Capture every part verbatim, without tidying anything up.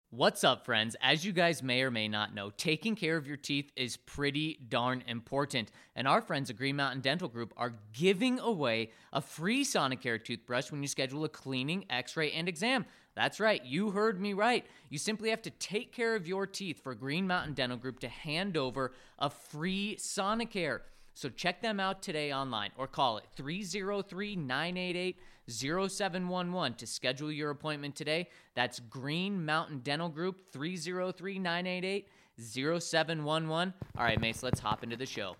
What's up, friends? As you guys may or may not know, taking care of your teeth is pretty darn important. And our friends at Green Mountain Dental Group are giving away a free Sonicare toothbrush when you schedule a cleaning, x-ray, and exam. That's right, you heard me right. You simply have to take care of your teeth for Green Mountain Dental Group to hand over a free Sonicare. So check them out today online or call it three oh three, nine eight eight, oh seven one one to schedule your appointment today. That's Green Mountain Dental Group, three oh three, nine eight eight, oh seven one one. All right, Mace, let's hop into the show.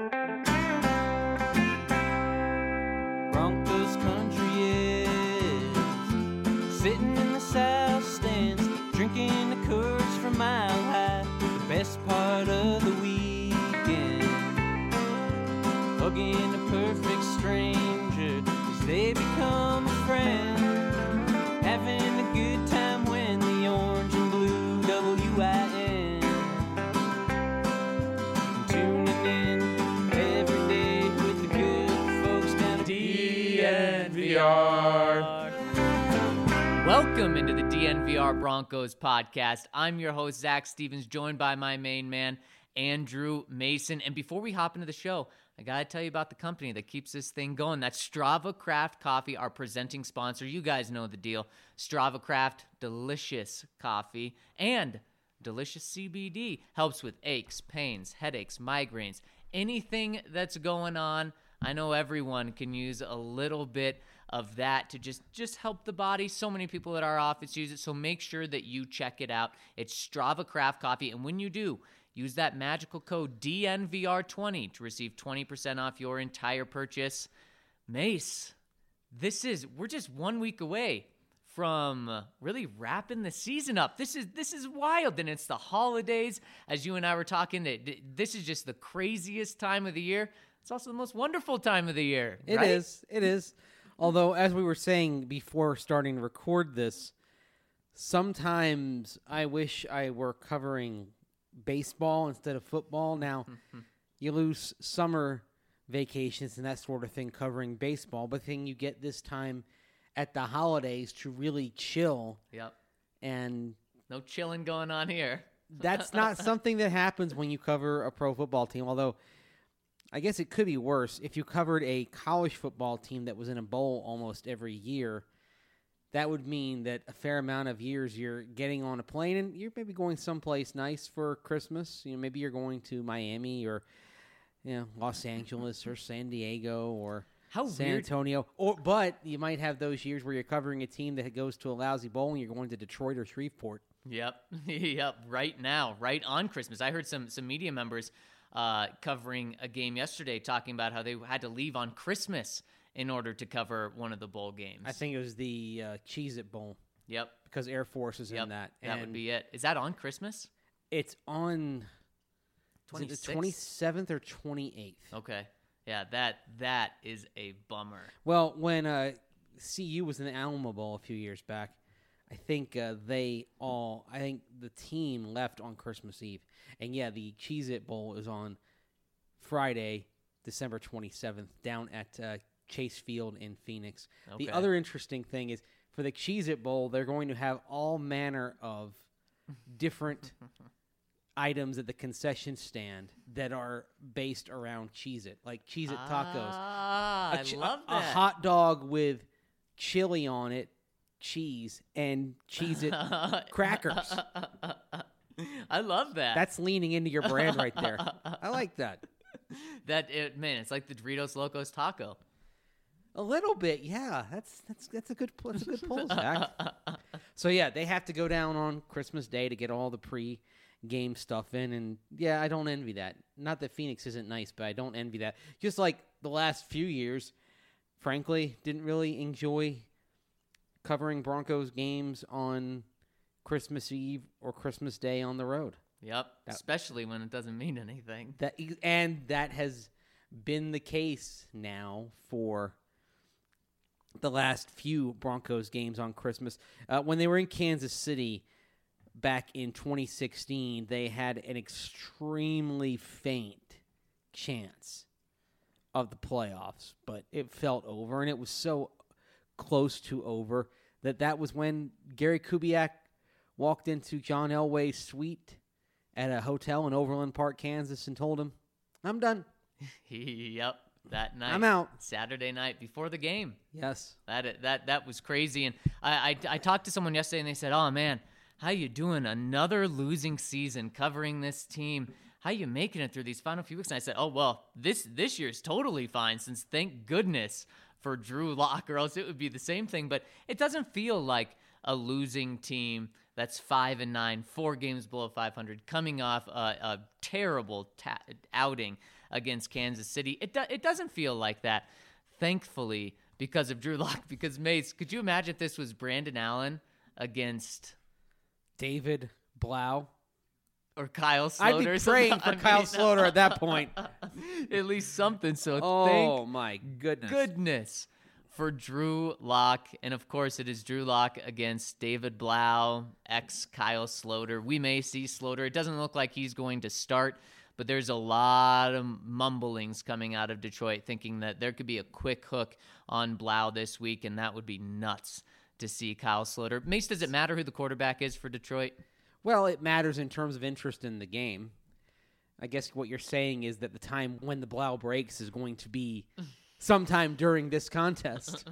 Broncos country is sitting in the south stands, drinking the Coors from Mile High, the best part of the weekend. Hugging a perfect stranger as they become a friend. Having a good time when the orange and blue W I N. Tuning in every day with the good folks down at D N V R. Welcome into the D N V R Broncos podcast. I'm your host, Zach Stevens, joined by my main man, Andrew Mason. And before we hop into the show, I got to tell you about the company that keeps this thing going. That's Strava Craft Coffee, our presenting sponsor. You guys know the deal. Strava Craft, delicious coffee and delicious C B D. Helps with aches, pains, headaches, migraines, anything that's going on. I know everyone can use a little bit of that to just, just help the body. So many people at our office use it, so make sure that you check it out. It's Strava Craft Coffee, and when you do, use that magical code D N V R twenty to receive twenty percent off your entire purchase. Mace, this is, we're just one week away from really wrapping the season up. This is this is wild, and it's the holidays. As you and I were talking, that this is just the craziest time of the year. It's also the most wonderful time of the year. It right? is. It is. Although, as we were saying before starting to record this, sometimes I wish I were covering baseball instead of football. Now, you lose summer vacations and that sort of thing covering baseball, but then you get this time at the holidays to really chill. Yep. And no chilling going on here. that's not something that happens when you cover a pro football team, although I guess it could be worse. If you covered a college football team that was in a bowl almost every year, that would mean that a fair amount of years you're getting on a plane and you're maybe going someplace nice for Christmas. You know, maybe you're going to Miami or, you know, Los Angeles or San Diego or How San weird. Antonio. Or but you might have those years where you're covering a team that goes to a lousy bowl and you're going to Detroit or Shreveport. Yep, yep. Right now, right on Christmas. I heard some some media members uh, covering a game yesterday talking about how they had to leave on Christmas in order to cover one of the bowl games. I think it was the uh, Cheez-It Bowl. Yep. Because Air Force is Yep. in that. That would And be it. Is that on Christmas? It's on is it the twenty-sixth? twenty-seventh or twenty-eighth. Okay. Yeah, that that is a bummer. Well, when uh, C U was in the Alamo Bowl a few years back, I think uh, they all, I think the team left on Christmas Eve. And yeah, the Cheez-It Bowl is on Friday, December twenty-seventh, down at uh, Chase Field in Phoenix. Okay. The other interesting thing is for the Cheez-It Bowl, they're going to have all manner of different items at the concession stand that are based around Cheez-It, like Cheez-It tacos. Ah, A I ch- love a, that. a hot dog with chili on it, cheese, and Cheez-It crackers. I love that. That's leaning into your brand right there. I like that. that it, man. It's like the Doritos Locos taco. A little bit, yeah. That's that's that's a good that's a good pull, Zach. So yeah, they have to go down on Christmas Day to get all the pre-game stuff in, and yeah, I don't envy that. Not that Phoenix isn't nice, but I don't envy that. Just like the last few years, frankly, didn't really enjoy covering Broncos games on Christmas Eve or Christmas Day on the road. Yep. That- Especially when it doesn't mean anything. That and that has been the case now for the last few Broncos games on Christmas. Uh, when they were in Kansas City back in twenty sixteen, they had an extremely faint chance of the playoffs, but it felt over, and it was so close to over that that was when Gary Kubiak walked into John Elway's suite at a hotel in Overland Park, Kansas, and told him, I'm done. Yep, that night. I'm out. Saturday night before the game. Yes. That that that was crazy. And I, I, I talked to someone yesterday, and they said, oh, man, how you doing? Another losing season covering this team. How you making it through these final few weeks? And I said, oh, well, this this year's totally fine since thank goodness for Drew Lock, or else it would be the same thing. But it doesn't feel like a losing team that's five and nine, four games below five hundred, coming off a, a terrible ta- outing against Kansas City. It do- it doesn't feel like that, thankfully, because of Drew Lock. Because, Mace, could you imagine if this was Brandon Allen against David Blau. Or Kyle Sloter. I'd be praying for I Kyle mean, Sloter at that point. At least something. So Oh, thank my goodness. goodness for Drew Lock. And, of course, it is Drew Lock against David Blau, ex-Kyle Sloter. We may see Sloter. It doesn't look like he's going to start, but there's a lot of mumblings coming out of Detroit thinking that there could be a quick hook on Blau this week, and that would be nuts to see Kyle Sloter. Mace, does it matter who the quarterback is for Detroit? Well, it matters in terms of interest in the game. I guess what you're saying is that the time when the Blau breaks is going to be sometime during this contest.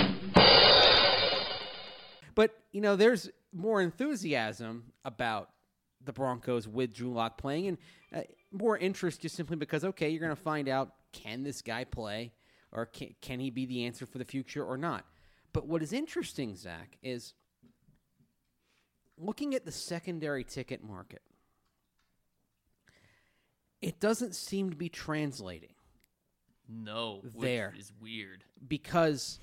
But, you know, there's more enthusiasm about the Broncos with Drew Lock playing, and uh, more interest just simply because, okay, you're going to find out, can this guy play, or can, can he be the answer for the future or not? But what is interesting, Zach, is looking at the secondary ticket market, it doesn't seem to be translating. No, There. which is weird. Because,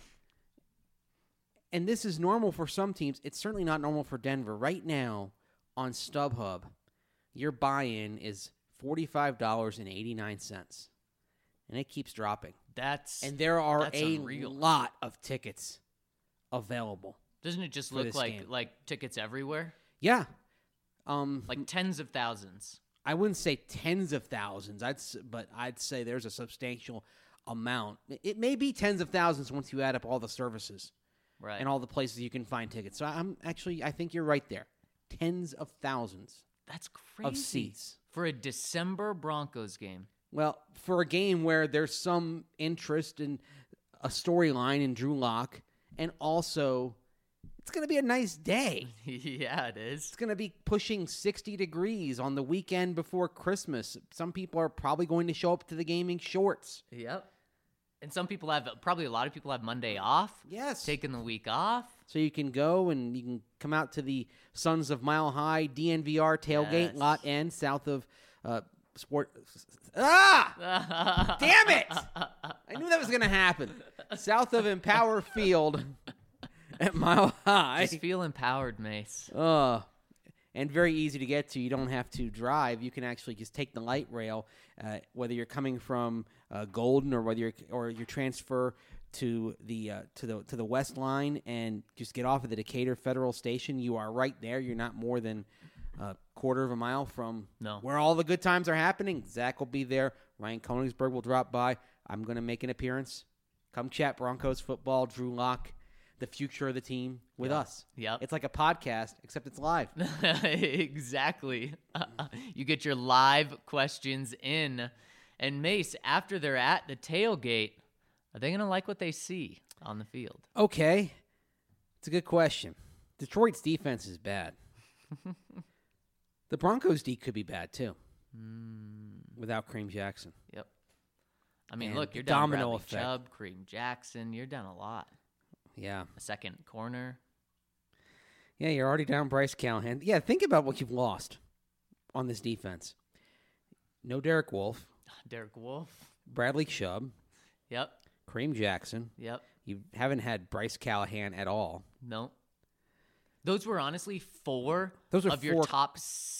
and this is normal for some teams, it's certainly not normal for Denver. Right now, on StubHub, your buy-in is forty-five dollars and eighty-nine cents. And it keeps dropping. That's And there are that's a unreal. lot of tickets available. Doesn't it just for look this like game. like tickets everywhere? Yeah. Um, Like tens of thousands. I wouldn't say tens of thousands, I'd s- but I'd say there's a substantial amount. It may be tens of thousands once you add up all the services Right. and all the places you can find tickets. So I'm actually, I think you're right there. Tens of thousands That's crazy. of seats. For a December Broncos game. Well, for a game where there's some interest in a storyline in Drew Lock, and also it's going to be a nice day. Yeah, it is. It's going to be pushing sixty degrees on the weekend before Christmas. Some people are probably going to show up to the game in shorts. Yep. And some people have, probably a lot of people have Monday off. Yes. Taking the week off. So you can go and you can come out to the Sons of Mile High D N V R tailgate Yes. lot N south of uh, Sport. Ah! Damn it! I knew that was going to happen. South of Empower Field at Mile High. Just feel empowered, Mace. Uh, and very easy to get to. You don't have to drive. You can actually just take the light rail, uh, whether you're coming from uh, Golden or whether you're or you transfer to the uh, to the to the West Line and just get off of the Decatur Federal Station. You are right there. You're not more than a quarter of a mile from No. where all the good times are happening. Zach will be there. Ryan Koenigsberg will drop by. I'm going to make an appearance. Come chat Broncos football. Drew Lock, the future of the team with us. Yep. It's like a podcast, except it's live. Exactly. You get your live questions in. And Mace, after they're at the tailgate, are they going to like what they see on the field? Okay. It's a good question. Detroit's defense is bad. The Broncos' D could be bad, too, Mm, without Kareem Jackson. yep. I mean, And look, you're the down domino Bradley effect. Chubb, Kareem Jackson. You're down a lot. Yeah. A second corner. Yeah, you're already down Bryce Callahan. Yeah, think about what you've lost on this defense. No Derek Wolfe, Derek Wolf. Bradley Chubb, Yep. Kareem Jackson. Yep. You haven't had Bryce Callahan at all. No. Those were honestly four Those are of your four- top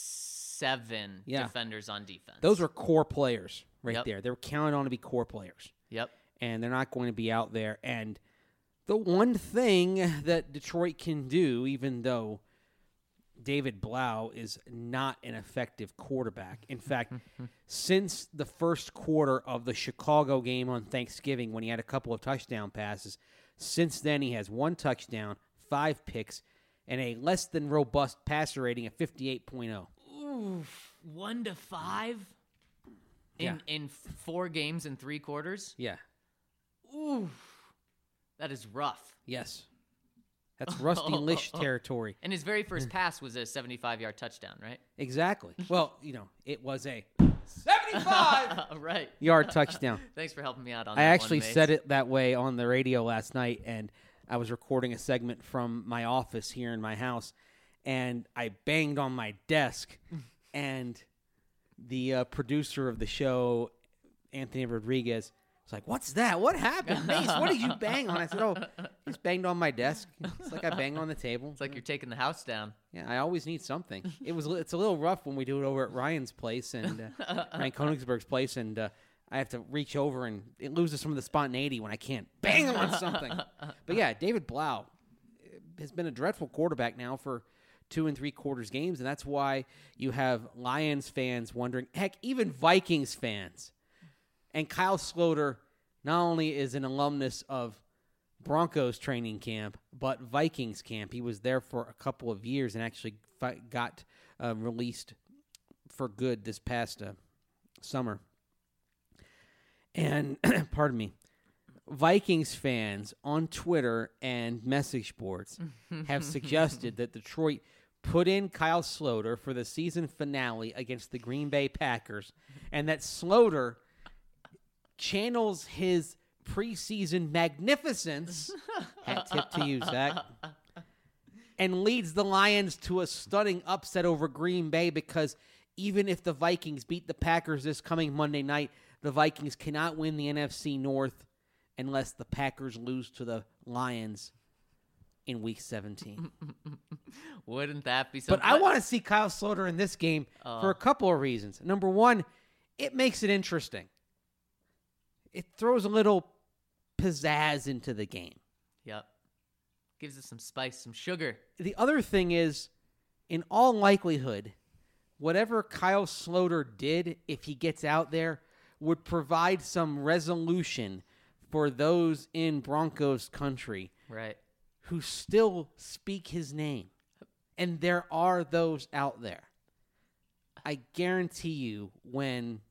seven Yeah. defenders on defense. Those are core players right Yep. there. They were counted on to be core players. Yep. And they're not going to be out there. And the one thing that Detroit can do, even though David Blau is not an effective quarterback. In fact, since the first quarter of the Chicago game on Thanksgiving when he had a couple of touchdown passes, since then he has one touchdown, five picks, and a less than robust passer rating of fifty-eight point oh. Oof. One to five in Yeah. in four games and three quarters. Yeah. Oof. That is rough. Yes. That's Rusty Lish territory. And his very first pass was a seventy-five-yard touchdown, right? Exactly. Well, you know, it was a seventy-five Right. yard touchdown. Thanks for helping me out on I that actually one, Mace. said it that way on the radio last night, and I was recording a segment from my office here in my house, and I banged on my desk, and the uh, producer of the show, Anthony Rodriguez, was like, "What's that? What happened, Mace? What did you bang on?" I said, "Oh, just banged on my desk. It's like I banged on the table." It's like you're taking the house down. Yeah, I always need something. It was it's a little rough when we do it over at Ryan's place and uh, Ryan Konigsberg's place, and uh, I have to reach over, and it loses some of the spontaneity when I can't bang him on something. But yeah, David Blau has been a dreadful quarterback now for two and three quarters games, and that's why you have Lions fans wondering, heck, even Vikings fans. And Kyle Sloter not only is an alumnus of Broncos training camp, but Vikings camp. He was there for a couple of years and actually fi- got uh, released for good this past uh, summer. And, pardon me, Vikings fans on Twitter and message boards have suggested that Detroit put in Kyle Sloter for the season finale against the Green Bay Packers, and that Sloter channels his preseason magnificence, hat tip to you, Zach, and leads the Lions to a stunning upset over Green Bay, because even if the Vikings beat the Packers this coming Monday night, the Vikings cannot win the N F C North unless the Packers lose to the Lions in Week seventeen. Wouldn't that be something? But I want to see Kyle Sloter in this game Oh. for a couple of reasons. Number one, it makes it interesting. It throws a little pizzazz into the game. Yep. Gives us some spice, some sugar. The other thing is, in all likelihood, whatever Kyle Sloter did, if he gets out there, would provide some resolution for those in Broncos country Right. who still speak his name. And there are those out there. I guarantee you, when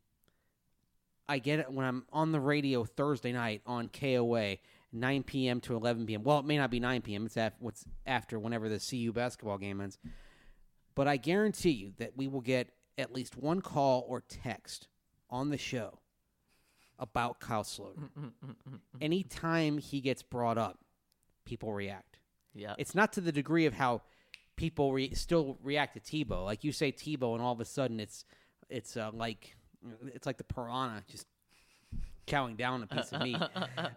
I get it, when I'm on the radio Thursday night on K O A, nine p.m. to eleven p.m. Well, it may not be nine p.m. It's af- what's after whenever the C U basketball game ends. But I guarantee you that we will get at least one call or text on the show about Kyle Sloter. Anytime he gets brought up, people react. Yeah. It's not to the degree of how people re- still react to Tebow. Like you say Tebow, and all of a sudden it's it's uh, like it's like the piranha just chowing down a piece of meat.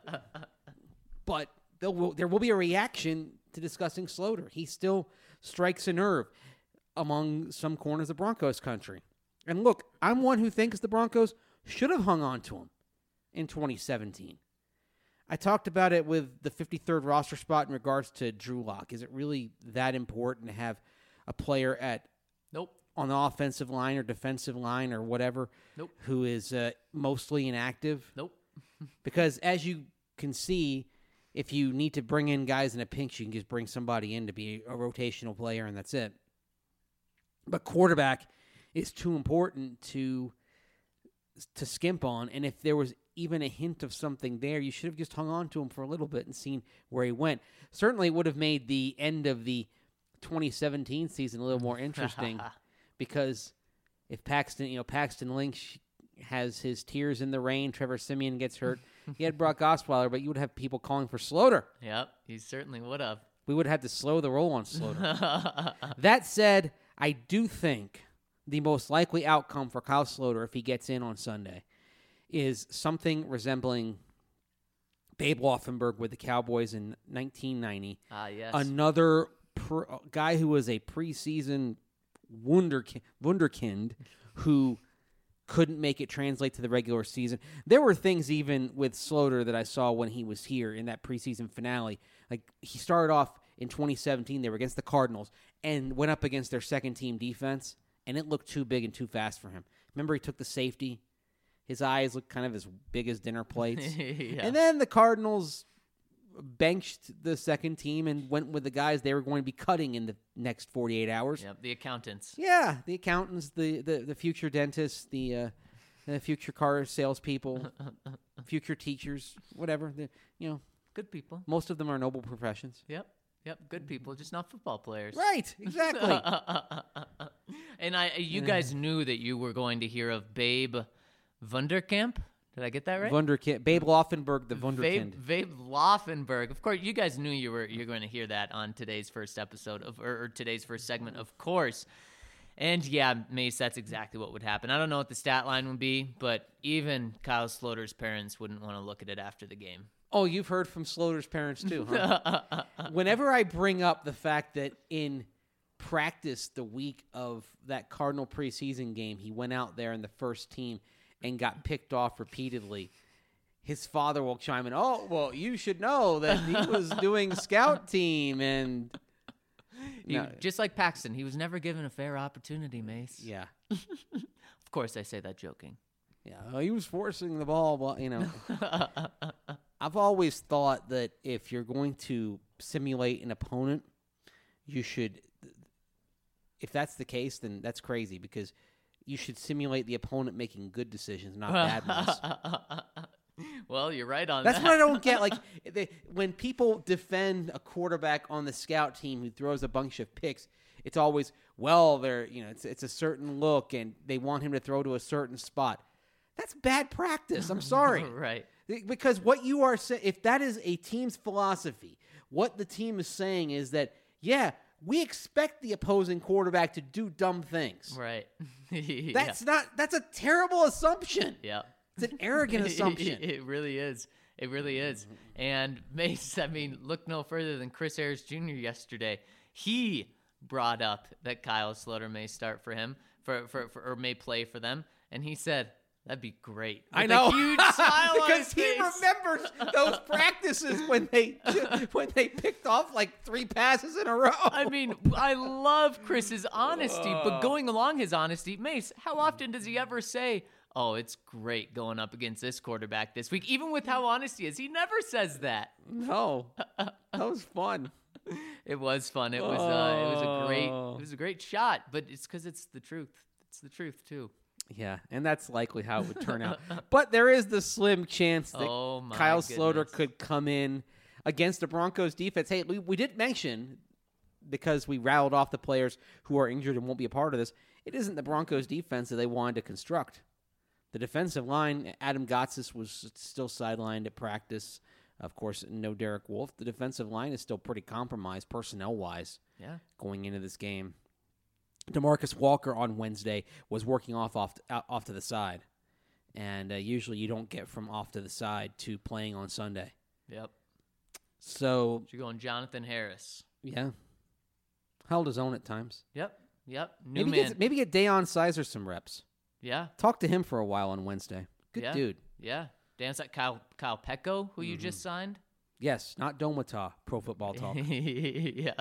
But there will, there will be a reaction to discussing Sloter. He still strikes a nerve among some corners of Broncos country. And look, I'm one who thinks the Broncos should have hung on to him in twenty seventeen. I talked about it with the fifty-third roster spot in regards to Drew Lock. Is it really that important to have a player at Nope. on the offensive line or defensive line or whatever Nope. who is uh, mostly inactive? Nope. Because as you can see, if you need to bring in guys in a pinch, you can just bring somebody in to be a rotational player, and that's it. But quarterback is too important to to skimp on, and if there was even a hint of something there, you should have just hung on to him for a little bit and seen where he went. Certainly would have made the end of the twenty seventeen season a little more interesting, because if Paxton, you know, Paxton Lynch has his tears in the rain, Trevor Siemian gets hurt, he had Brock Osweiler, but you would have people calling for Sloter. Yep. He certainly would have. We would have to slow the roll on Sloter. That said, I do think the most likely outcome for Kyle Sloter, if he gets in on Sunday, is something resembling Babe Laufenberg with the Cowboys in nineteen ninety. Ah, yes. Another pr- guy who was a preseason wunderkind, wunderkind who couldn't make it translate to the regular season. There were things even with Sloter that I saw when he was here in that preseason finale. Like, he started off in twenty seventeen, they were against the Cardinals, and went up against their second-team defense, and it looked too big and too fast for him. Remember, he took the safety. His eyes looked kind of as big as dinner plates. Yeah. And then the Cardinals benched the second team and went with the guys they were going to be cutting in the next forty-eight hours. Yep, the accountants. Yeah, the accountants, the, the, the future dentists, the, uh, the future car salespeople, future teachers, whatever. The, you know, Good people. most of them are noble professions. Yep. Yep, good people, just not football players. Right, exactly. And I, you guys knew that you were going to hear of Babe Wunderkamp. Did I get that right? Wunderkind, Babe Laufenberg, the Babe, Wunderkind. Babe Laufenberg. Of course, you guys knew you were you're going to hear that on today's first episode of or, or today's first segment, of course. And yeah, Mace, that's exactly what would happen. I don't know what the stat line would be, but even Kyle Sloter's parents wouldn't want to look at it after the game. Oh, you've heard from Sloter's parents too, huh? Whenever I bring up the fact that in practice the week of that Cardinal preseason game, he went out there in the first team and got picked off repeatedly, his father will chime in, oh, well, you should know that he was doing scout team. And He, no, just like Paxton, he was never given a fair opportunity, Mace. yeah, Of course, I say that joking. yeah, well, he was forcing the ball. Well, you know, I've always thought that if you're going to simulate an opponent, you should, if that's the case, then that's crazy because you should simulate the opponent making good decisions, not bad ones. Well, you're right on That's that. what I don't get. Like they, when people defend a quarterback on the scout team who throws a bunch of picks, it's always, well, they're you know it's it's a certain look and they want him to throw to a certain spot. That's bad practice. I'm sorry. Right. Because what you are saying, if that is a team's philosophy, what the team is saying is that, yeah, we expect the opposing quarterback to do dumb things. Right. Yeah. That's not, that's a terrible assumption. Yeah. It's an arrogant assumption. It really is. It really is. And Mace, I mean, look no further than Chris Harris Junior yesterday. He brought up that Kyle Sloter may start for him, for, for, for or may play for them, and he said, that'd be great. I With know. a huge smile on his Because he face. remembers those practices when they when they picked off like three passes in a row. I mean, I love Chris's honesty, but going along his honesty, Mace, how often does he ever say, oh, it's great going up against this quarterback this week? Even with how honest he is, he never says that. No, that was fun. It was fun. It was uh, it was a great Oh. it was a great shot, but it's because it's the truth. It's the truth too. Yeah, and that's likely how it would turn out. But there is the slim chance that Oh, my Kyle Sloter goodness. could come in against the Broncos defense. Hey, we, we did mention, because we rattled off the players who are injured and won't be a part of this, it isn't the Broncos defense that they wanted to construct. The defensive line, Adam Gotsis was still sidelined at practice. Of course, no Derek Wolfe. The defensive line is still pretty compromised personnel-wise Yeah. going into this game. DeMarcus Walker on Wednesday was working off off, out, off to the side. And uh, usually you don't get from off to the side to playing on Sunday. Yep. So, So you're going Jonathan Harris. yeah. Held his own at times. Yep. Yep. New Maybe man. get, maybe get Deion Sizer some reps. Yeah. Talk to him for a while on Wednesday. Good Yeah. dude. Yeah. Dance like Kyle Kyle Petco, who you Mm-hmm. just signed. Yes, not Domata, Pro Football Talk. Yeah.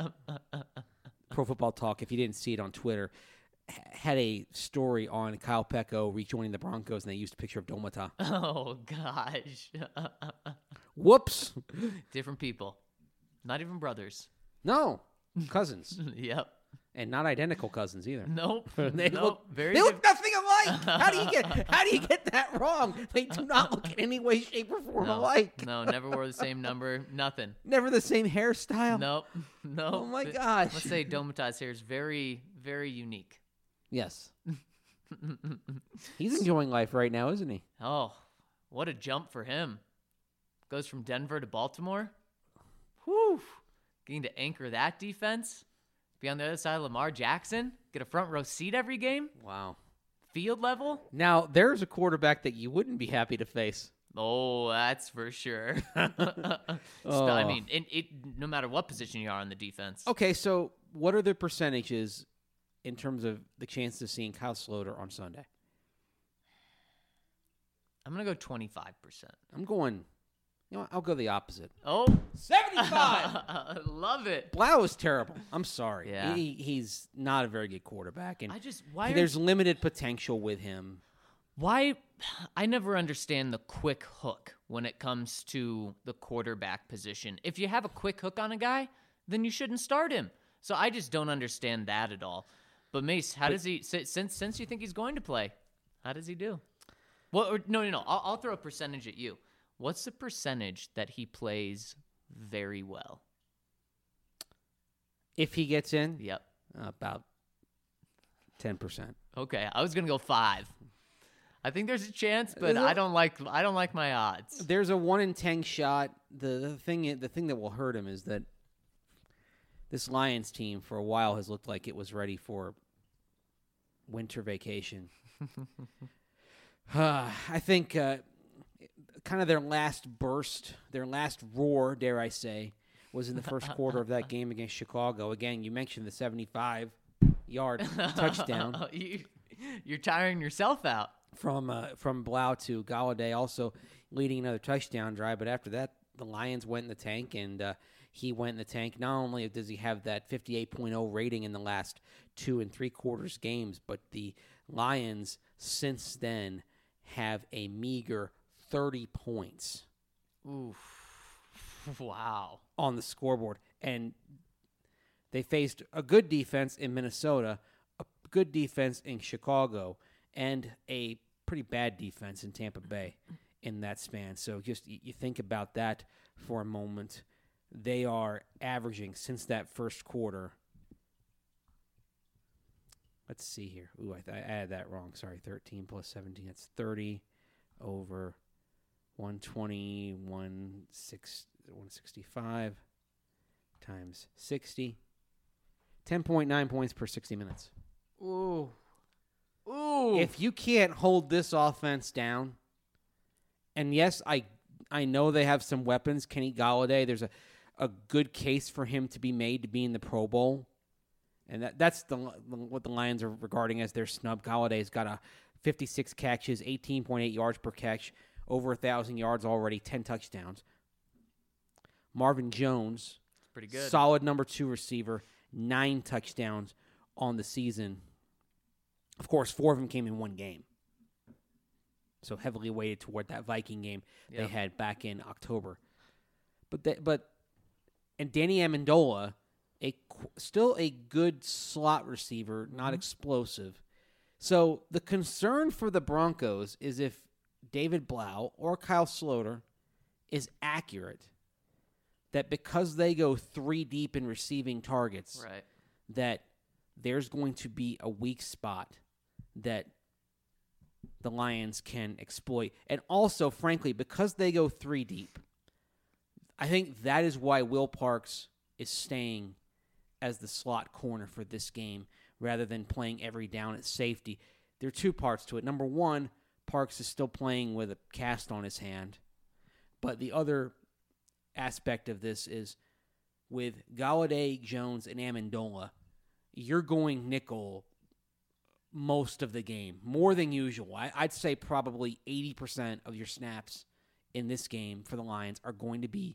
Pro Football Talk, if you didn't see it on Twitter, h- had a story on Kyle Pecco rejoining the Broncos, and they used a picture of Domata. Oh gosh. Whoops. Different people. Not even brothers. No, cousins. Yep. And not identical cousins either. Nope. They nope. look Very they look diff- nothing alike. How do you get how do you get that wrong? They do not look in any way, shape, or form no, alike. no, never wore the same number. Nothing. Never the same hairstyle. Nope. Nope. Oh my But gosh. Let's say Domata's hair is very, very unique. Yes. He's enjoying life right now, isn't he? Oh, what a jump for him. Goes from Denver to Baltimore. Whew. Getting to anchor that defense. Be on the other side of Lamar Jackson. Get a front row seat every game. Wow. Field level. Now there's a quarterback that you wouldn't be happy to face. Oh, that's for sure. I Oh. mean, it, it, no matter what position you are on the defense. Okay, so what are the percentages in terms of the chance of seeing Kyle Sloter on Sunday? I'm going to go twenty-five percent. I'm going, you know what, I'll go the opposite. Oh. seventy-five! Love it. Blau is terrible. I'm sorry. Yeah. He, he's not a very good quarterback, and I just, why are there's limited potential with him. Why? I never understand the quick hook when it comes to the quarterback position. If you have a quick hook on a guy, then you shouldn't start him. So I just don't understand that at all. But Mace, how but, does he, since since you think he's going to play, how does he do? Well, or, no, no, no. I'll, I'll throw a percentage at you. What's the percentage that he plays very well? If he gets in? Yep. Uh, about ten percent. Okay, I was going to go five. I think there's a chance, but I don't like I don't like my odds. There's a one in ten shot. The, the thing the thing that will hurt him is that this Lions team for a while has looked like it was ready for winter vacation. uh, I think uh, kind of their last burst, their last roar, dare I say, was in the first quarter of that game against Chicago. Again, you mentioned the seventy-five yard touchdown. you, you're tiring yourself out. From uh, from Blau to Galladay, also leading another touchdown drive. But after that, the Lions went in the tank, and uh, he went in the tank. Not only does he have that fifty-eight point oh rating in the last two and three quarters games, but the Lions since then have a meager thirty points. Oof. Wow. On the scoreboard. And they faced a good defense in Minnesota, a good defense in Chicago, and a pretty bad defense in Tampa Bay in that span. So just you think about that for a moment. They are averaging since that first quarter. Let's see here. Ooh, I, th- I added that wrong. Sorry, thirteen plus seventeen. That's thirty over one twenty, one sixty-five times sixty. ten point nine points per sixty minutes. Ooh. Ooh. If you can't hold this offense down, and yes, I I know they have some weapons. Kenny Galladay, there's a, a good case for him to be made to be in the Pro Bowl. And that that's the what the Lions are regarding as their snub. Galladay's got a fifty-six catches, eighteen point eight yards per catch, over one thousand yards already, ten touchdowns. Marvin Jones, pretty good. Solid number two receiver, nine touchdowns on the season. Of course, four of them came in one game. So heavily weighted toward that Viking game yep. they had back in October. But they, but and Danny Amendola, a still a good slot receiver, mm-hmm. not explosive. So the concern for the Broncos is if David Blau or Kyle Sloter is accurate, that because they go three deep in receiving targets, right. that there's going to be a weak spot that the Lions can exploit. And also, frankly, because they go three deep, I think that is why Will Parks is staying as the slot corner for this game rather than playing every down at safety. There are two parts to it. Number one, Parks is still playing with a cast on his hand. But the other aspect of this is with Galladay, Jones, and Amendola, you're going nickel most of the game, more than usual. I, I'd say probably eighty percent of your snaps in this game for the Lions are going to be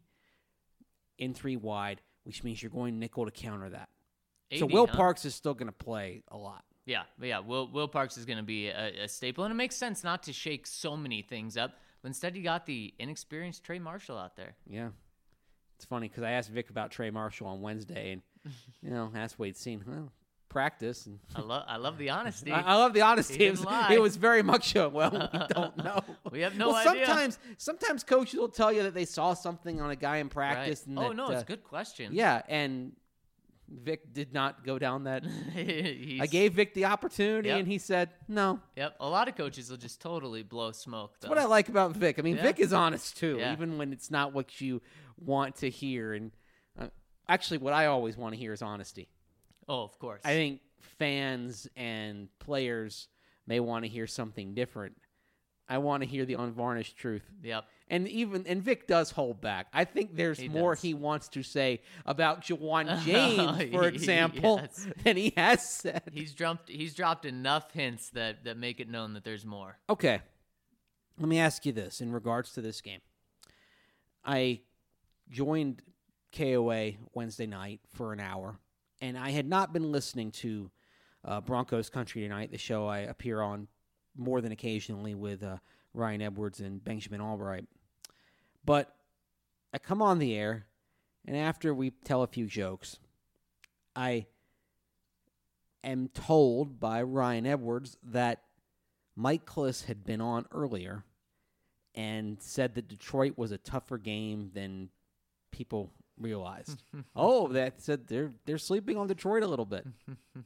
in three wide, which means you're going nickel to counter that. eighty, so Will huh? Parks is still going to play a lot. Yeah, but yeah, Will Will Parks is going to be a, a staple, and it makes sense not to shake so many things up. But instead, you got the inexperienced Trey Marshall out there. Yeah. It's funny because I asked Vic about Trey Marshall on Wednesday, and, you know, asked what he'd seen. Well, practice. And I, lo- I love the honesty. I, I love the honesty. It was, it was very much a, well, we don't know. We have no well, idea. Sometimes, sometimes coaches will tell you that they saw something on a guy in practice. Right. And oh, that, no, uh, it's a good question. Yeah, and Vic did not go down that. I gave Vic the opportunity, yep. and he said no. Yep. A lot of coaches will just totally blow smoke, though. That's what I like about Vic. I mean, yeah. Vic is honest, too, yeah. even when it's not what you want to hear. And uh, actually, what I always want to hear is honesty. Oh, of course. I think fans and players may want to hear something different. I want to hear the unvarnished truth. Yep. And even and Vic does hold back. I think there's he more does. he wants to say about Jawan James, for example, yes. than he has said. He's dropped he's dropped enough hints that, that make it known that there's more. Okay. Let me ask you this in regards to this game. I joined K O A Wednesday night for an hour, and I had not been listening to uh, Broncos Country Tonight, the show I appear on more than occasionally with uh, Ryan Edwards and Benjamin Albright. But I come on the air, and after we tell a few jokes, I am told by Ryan Edwards that Mike Klis had been on earlier and said that Detroit was a tougher game than people realized. oh, that said they're they're sleeping on Detroit a little bit.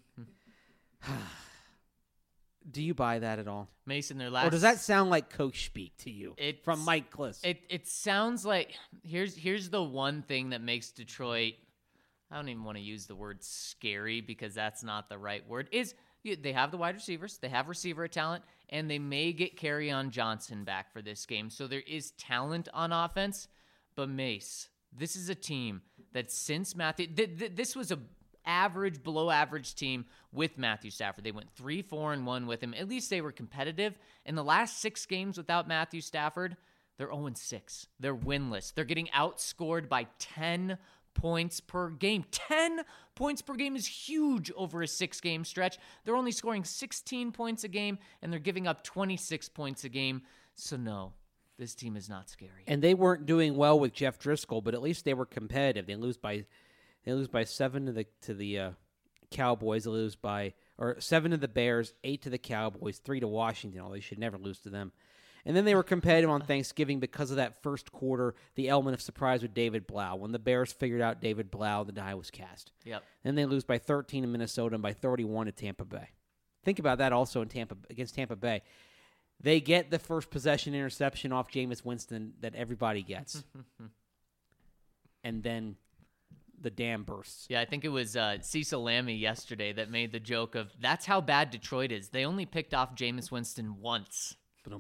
Do you buy that at all? Mason, their last... Or does that sound like coach speak to you It's, from Mike Klis? It it sounds like... Here's, here's the one thing that makes Detroit... I don't even want to use the word scary because that's not the right word. Is they have the wide receivers, they have receiver talent, and they may get Kerryon Johnson back for this game. So there is talent on offense. But Mace, this is a team that since Matthew... Th- th- this was a average, below average team with Matthew Stafford. They went three, four, and one with him. At least they were competitive. In the last six games without Matthew Stafford, they're oh and six. They're winless. They're getting outscored by ten points per game. ten points per game is huge over a six-game stretch. They're only scoring sixteen points a game, and they're giving up twenty-six points a game. So no, this team is not scary. And they weren't doing well with Jeff Driscoll, but at least they were competitive. They lose by they lose by seven to the to the uh, Cowboys. They lose by or seven to the Bears, eight to the Cowboys, three to Washington. Oh, they should never lose to them. And then they were competitive on Thanksgiving because of that first quarter, the element of surprise with David Blau. When the Bears figured out David Blau, the die was cast. Yep. Then they lose by thirteen in Minnesota and by thirty-one to Tampa Bay. Think about that also in Tampa against Tampa Bay. They get the first possession interception off Jameis Winston that everybody gets. And then the dam bursts. Yeah, I think it was uh, Cecil Lammey yesterday that made the joke of, that's how bad Detroit is. They only picked off Jameis Winston once.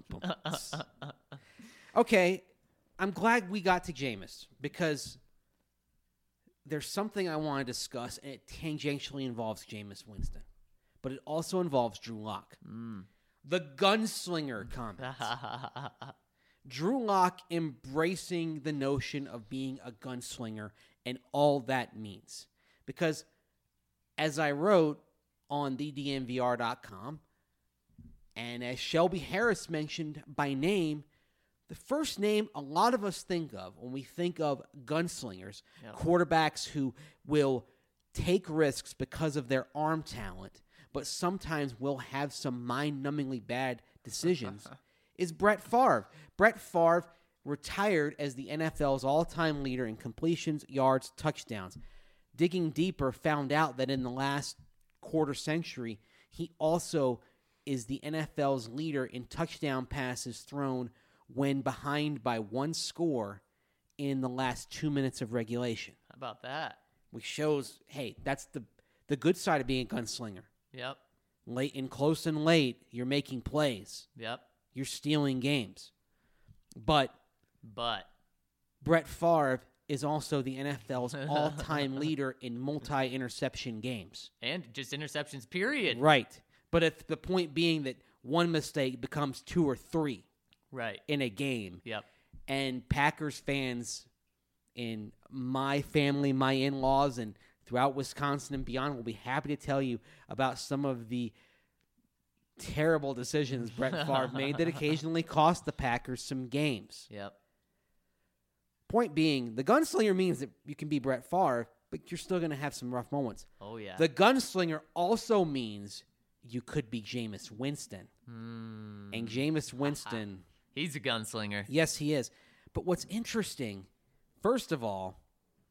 Okay, I'm glad we got to Jameis because there's something I want to discuss, and it tangentially involves Jameis Winston. But it also involves Drew Lock. Mm. The gunslinger comment. Drew Lock embracing the notion of being a gunslinger and all that means. Because as I wrote on the D N V R dot com, and as Shelby Harris mentioned by name, the first name a lot of us think of when we think of gunslingers, yep. quarterbacks who will take risks because of their arm talent, but sometimes will have some mind-numbingly bad decisions, is Brett Favre. Brett Favre retired as the N F L's all-time leader in completions, yards, touchdowns. Digging deeper, found out that in the last quarter century, he also is the N F L's leader in touchdown passes thrown when behind by one score in the last two minutes of regulation. How about that? Which shows, hey, that's the the good side of being a gunslinger. Yep. Late and close and late, you're making plays. Yep. You're stealing games. But But Brett Favre is also the N F L's all-time leader in multi-interception games. And just interceptions, period. Right. But if the point being that one mistake becomes two or three right. in a game. Yep. And Packers fans in my family, my in-laws, and throughout Wisconsin and beyond will be happy to tell you about some of the terrible decisions Brett Favre made that occasionally cost the Packers some games. Yep. Point being, the gunslinger means that you can be Brett Favre, but you're still going to have some rough moments. Oh, yeah. The gunslinger also means you could be Jameis Winston. Mm. And Jameis Winston... He's a gunslinger. Yes, he is. But what's interesting, first of all,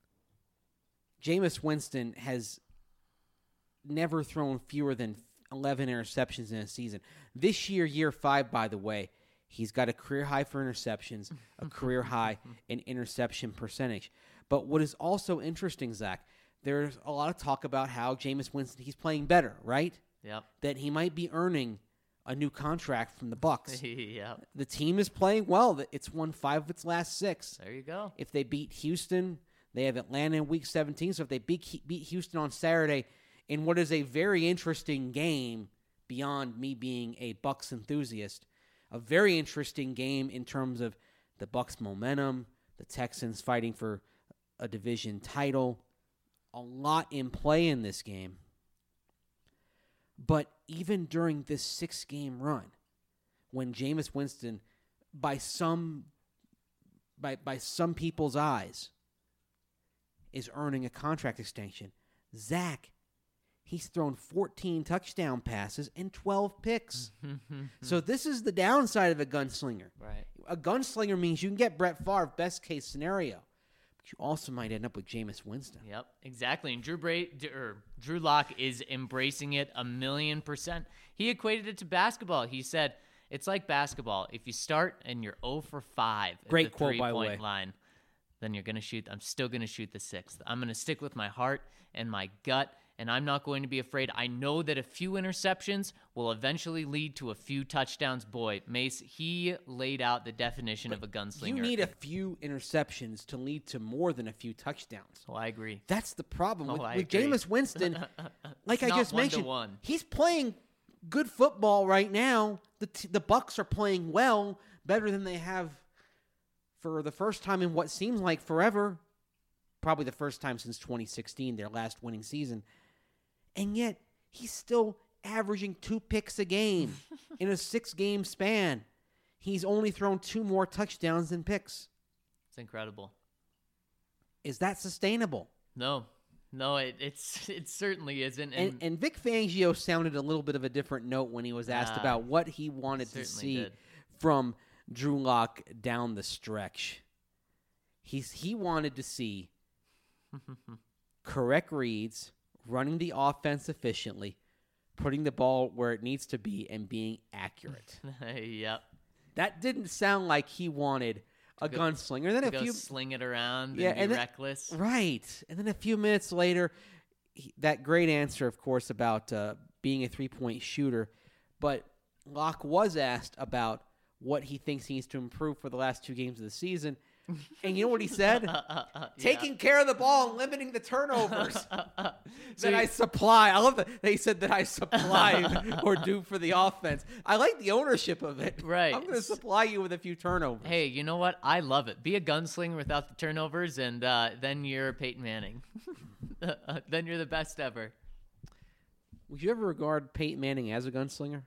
Jameis Winston has never thrown fewer than eleven interceptions in a season. This year, year five, by the way, he's got a career high for interceptions, a career high in interception percentage. But what is also interesting, Zach, there's a lot of talk about how Jameis Winston, he's playing better, right? Yep. That he might be earning a new contract from the Bucs. Yep. The team is playing well. It's won five of its last six. There you go. If they beat Houston, they have Atlanta in week seventeen. So if they beat, beat Houston on Saturday in what is a very interesting game, beyond me being a Bucs enthusiast, a very interesting game in terms of the Bucs' momentum, the Texans fighting for a division title, a lot in play in this game. But even during this six-game run, when Jameis Winston, by some by by some people's eyes, is earning a contract extension. Zach, he's thrown fourteen touchdown passes and twelve picks. So this is the downside of a gunslinger. Right. A gunslinger means you can get Brett Favre, best case scenario. But you also might end up with Jameis Winston. Yep, exactly. And Drew Bra- D- or Drew Lock is embracing it a million percent. He equated it to basketball. He said, it's like basketball. If you start and you're zero for five at Great the quote, by the way. three-point line, then you're going to shoot. I'm still going to shoot the sixth. I'm going to stick with my heart and my gut, and I'm not going to be afraid. I know that a few interceptions will eventually lead to a few touchdowns. Boy, Mace, he laid out the definition of a gunslinger. You need a few interceptions to lead to more than a few touchdowns. Oh, I agree. That's the problem. Oh, with I with agree. Jameis Winston, like It's I not just mentioned, one-to-one. he's playing good football right now. The t- the Bucs are playing well, better than they have for the first time in what seems like forever. Probably the first time since twenty sixteen, their last winning season. And yet, he's still averaging two picks a game in a six-game span. He's only thrown two more touchdowns than picks. It's incredible. Is that sustainable? No, no, it it's it certainly isn't. And, And, and Vic Fangio sounded a little bit of a different note when he was asked Ah, about what he wanted to certainly see did. from Drew Lock down the stretch. He's he wanted to see correct reads, running the offense efficiently, putting the ball where it needs to be, and being accurate. yep. That didn't sound like he wanted a go- gunslinger. Then a Go few sling it around Yeah, and be and then- reckless. Right. And then a few minutes later, he, that great answer, of course, about uh, being a three-point shooter. But Locke was asked about what he thinks he needs to improve for the last two games of the season. And you know what he said? Taking care of the ball and limiting the turnovers that I supply. I love that they said that I supply or do for the offense. I like the ownership of it. Right. I'm going to supply you with a few turnovers. Hey, you know what? I love it. Be a gunslinger without the turnovers, and uh, then you're Peyton Manning. Then you're the best ever. Would you ever regard Peyton Manning as a gunslinger?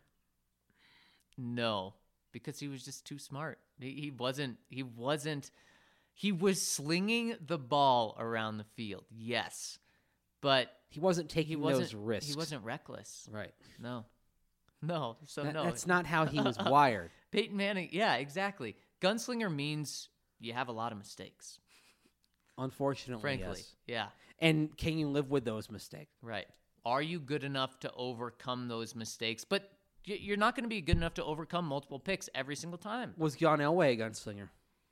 No, because he was just too smart. He, he wasn't. He wasn't. He was slinging the ball around the field. Yes, but He wasn't he taking wasn't. those risks. He wasn't reckless. Right. No, no. So That- no, That's not how he was wired. Peyton Manning. Yeah, exactly. Gunslinger means you have a lot of mistakes. Unfortunately, Frankly, yes. yeah. And can you live with those mistakes? Right. Are you good enough to overcome those mistakes? But y- you're not going to be good enough to overcome multiple picks every single time. Was John Elway a gunslinger?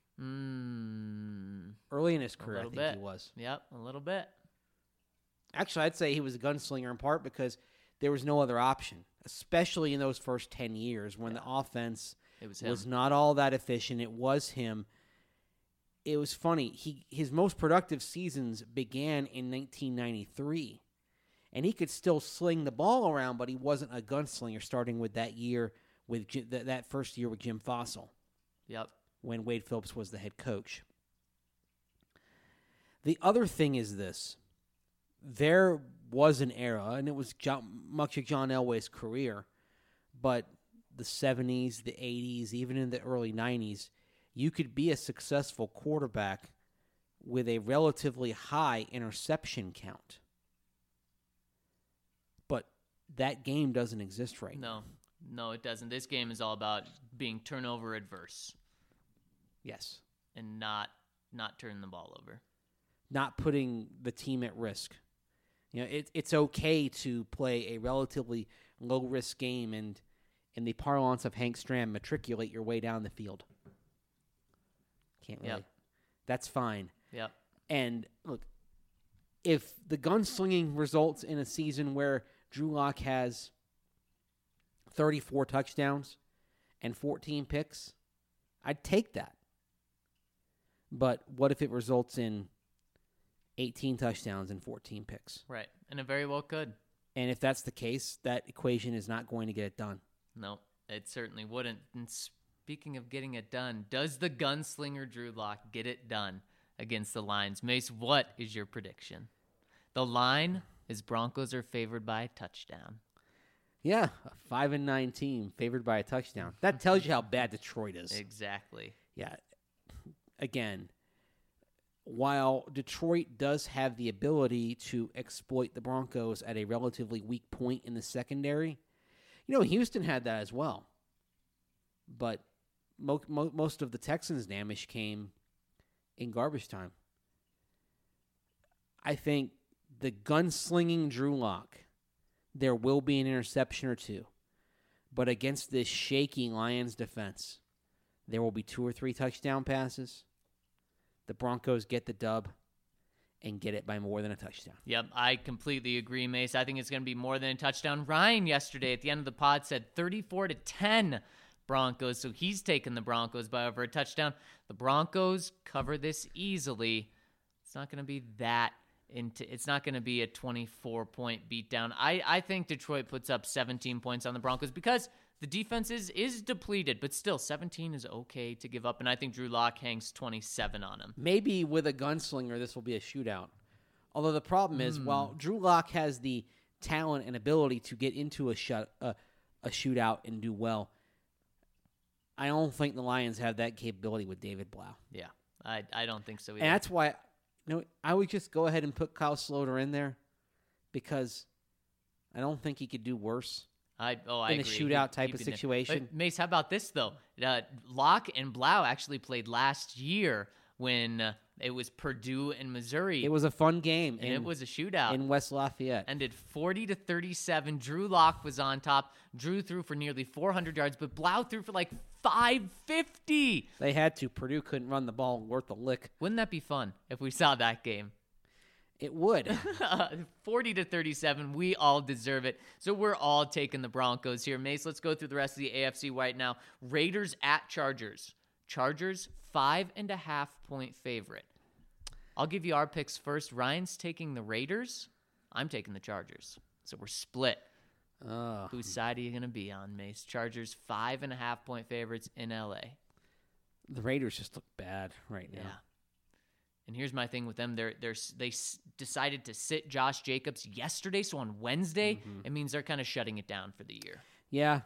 Mm, Early in his a career, I little think bit. he was. Yep, a little bit. Actually, I'd say he was a gunslinger in part because there was no other option, especially in those first ten years when the offense It was him. was not all that efficient. It was him. It was funny. He his most productive seasons began in nineteen ninety-three, and he could still sling the ball around, but he wasn't a gunslinger. Starting with that year with Jim, that that first year with Jim Fossil, Yep. when Wade Phillips was the head coach. The other thing is this: there was an era, and it was John, much of John Elway's career, but the seventies, the eighties, even in the early nineties, you could be a successful quarterback with a relatively high interception count. But that game doesn't exist right now. No, no, it doesn't. This game is all about being turnover adverse Yes. and not not turning the ball over. Not putting the team at risk. You know, it, it's okay to play a relatively low-risk game and, in the parlance of Hank Stram, matriculate your way down the field. Can't really. Yep. That's fine. Yep. And, look, if the gunslinging results in a season where Drew Lock has thirty-four touchdowns and fourteen picks, I'd take that. But what if it results in eighteen touchdowns and fourteen picks? Right. And it very well could. And if that's the case, that equation is not going to get it done. No, it certainly wouldn't. And speaking of getting it done, does the gunslinger Drew Lock get it done against the Lions? Mace, what is your prediction? The line is Broncos are favored by a touchdown. Yeah, a five and nine team favored by a touchdown. That tells you how bad Detroit is. Exactly. Yeah. Again, while Detroit does have the ability to exploit the Broncos at a relatively weak point in the secondary, you know, Houston had that as well. But mo- mo- most of the Texans' damage came in garbage time. I think the gunslinging Drew Lock, there will be an interception or two. But against this shaky Lions defense, there will be two or three touchdown passes. The Broncos get the dub and get it by more than a touchdown. Yep, I completely agree, Mace. I think it's going to be more than a touchdown. Ryan yesterday at the end of the pod said thirty-four to ten Broncos, so he's taking the Broncos by over a touchdown. The Broncos cover this easily. It's not going to be that into it's not going to be a twenty-four point beatdown. I, I think Detroit puts up seventeen points on the Broncos because the defense is, is depleted, but still seventeen is okay to give up, and I think Drew Lock hangs twenty-seven on him. Maybe with a gunslinger, this will be a shootout. Although the problem is, mm. while Drew Lock has the talent and ability to get into a, shut, uh, a shootout and do well, I don't think the Lions have that capability with David Blau. Yeah, I I don't think so either. And that's why you know, I would just go ahead and put Kyle Sloter in there because I don't think he could do worse. I, oh, I in a agree. shootout He, type of situation. But Mace, how about this, though? Uh, Locke and Blau actually played last year when uh, it was Purdue and Missouri. It was a fun game. And in, it was a shootout. In West Lafayette. Ended forty to thirty-seven. Drew Lock was on top. Drew threw for nearly four hundred yards, but Blau threw for like five fifty. They had to. Purdue couldn't run the ball worth a lick. Wouldn't that be fun if we saw that game? It would. forty to thirty-seven. We all deserve it. So we're all taking the Broncos here. Mace, let's go through the rest of the A F C right now. Raiders at Chargers. Chargers, five and a half point favorite. I'll give you our picks first. Ryan's taking the Raiders. I'm taking the Chargers. So we're split. Oh. Whose side are you going to be on, Mace? Chargers, five and a half point favorites in L A. The Raiders just look bad right now. Yeah. And here's my thing with them. They're, they're, they s- decided to sit Josh Jacobs yesterday, so on Wednesday, mm-hmm. it means they're kind of shutting it down for the year. Yeah.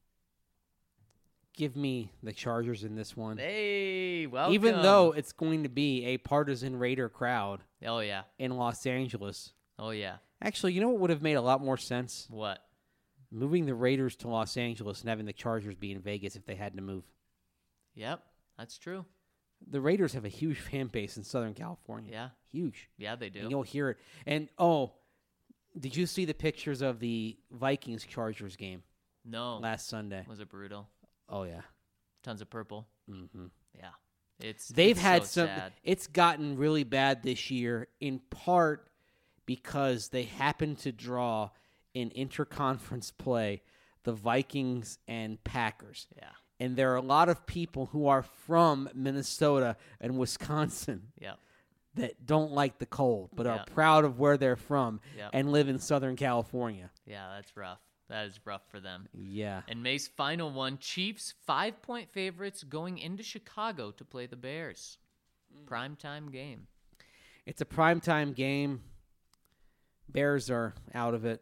Give me the Chargers in this one. Hey, welcome. Even though it's going to be a partisan Raider crowd. Oh, yeah. In Los Angeles. Oh, yeah. Actually, you know what would have made a lot more sense? What? Moving the Raiders to Los Angeles and having the Chargers be in Vegas if they had to move. Yep, that's true. The Raiders have a huge fan base in Southern California. Yeah. Huge. Yeah, they do. And you'll hear it. And, oh, did you see the pictures of the Vikings-Chargers game? No. Last Sunday. Was it brutal? Oh, yeah. Tons of purple. Mm-hmm. Yeah. It's They've it's had so some. sad. It's gotten really bad this year, in part because they happen to draw in interconference play the Vikings and Packers. Yeah. And there are a lot of people who are from Minnesota and Wisconsin yep. that don't like the cold, but yep. are proud of where they're from yep. and live in Southern California. Yeah, that's rough. That is rough for them. Yeah. And May's final one, Chiefs, five-point favorites going into Chicago to play the Bears. Mm. Primetime game. It's a primetime game. Bears are out of it.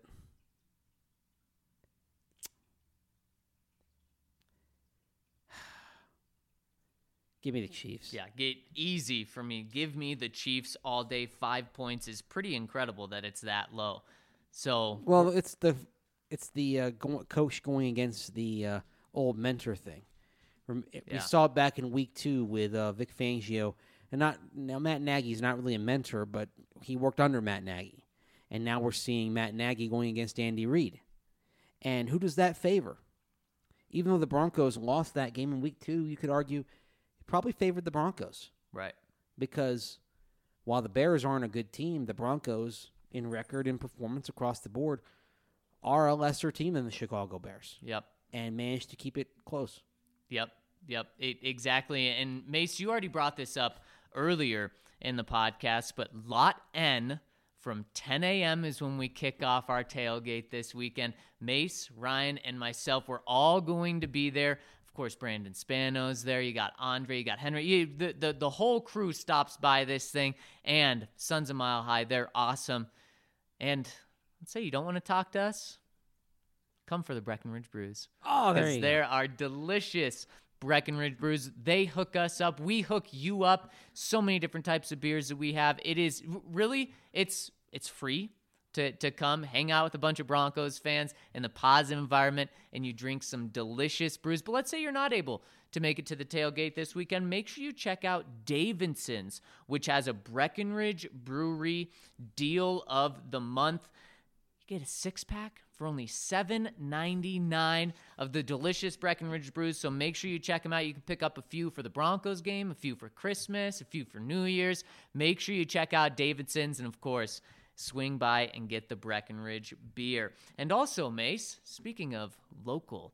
Give me the Chiefs. Yeah, get easy for me. Give me the Chiefs all day. Five points is pretty incredible that it's that low. So well, it's the it's the uh, go- coach going against the uh, old mentor thing. We yeah. saw it back in week two with uh, Vic Fangio, and not now Matt Nagy's not really a mentor, but he worked under Matt Nagy, and now we're seeing Matt Nagy going against Andy Reid. And who does that favor? Even though the Broncos lost that game in week two, you could argue. Probably favored the Broncos. Right. Because while the Bears aren't a good team, the Broncos, in record and performance across the board, are a lesser team than the Chicago Bears. Yep. And managed to keep it close. Yep. Yep. It, exactly. And Mace, you already brought this up earlier in the podcast, but Lot N from ten a.m. is when we kick off our tailgate this weekend. Mace, Ryan, and myself, we're all going to be there. Of course, Brandon Spano's there. You got Andre. You got Henry. You, the, the, the whole crew stops by this thing. And Sons of Mile High, they're awesome. And let's say you don't want to talk to us, come for the Breckenridge Brews. Oh, there Because you there go. are delicious Breckenridge Brews. They hook us up. We hook you up. So many different types of beers that we have. It is really, it's it's free to, to come hang out with a bunch of Broncos fans in the positive environment, and you drink some delicious brews. But let's say you're not able to make it to the tailgate this weekend. Make sure you check out Davidson's, which has a Breckenridge Brewery deal of the month. You get a six-pack for only seven ninety-nine of the delicious Breckenridge brews, so make sure you check them out. You can pick up a few for the Broncos game, a few for Christmas, a few for New Year's. Make sure you check out Davidson's, and of course, swing by and get the Breckenridge beer. And also, Mace, speaking of local,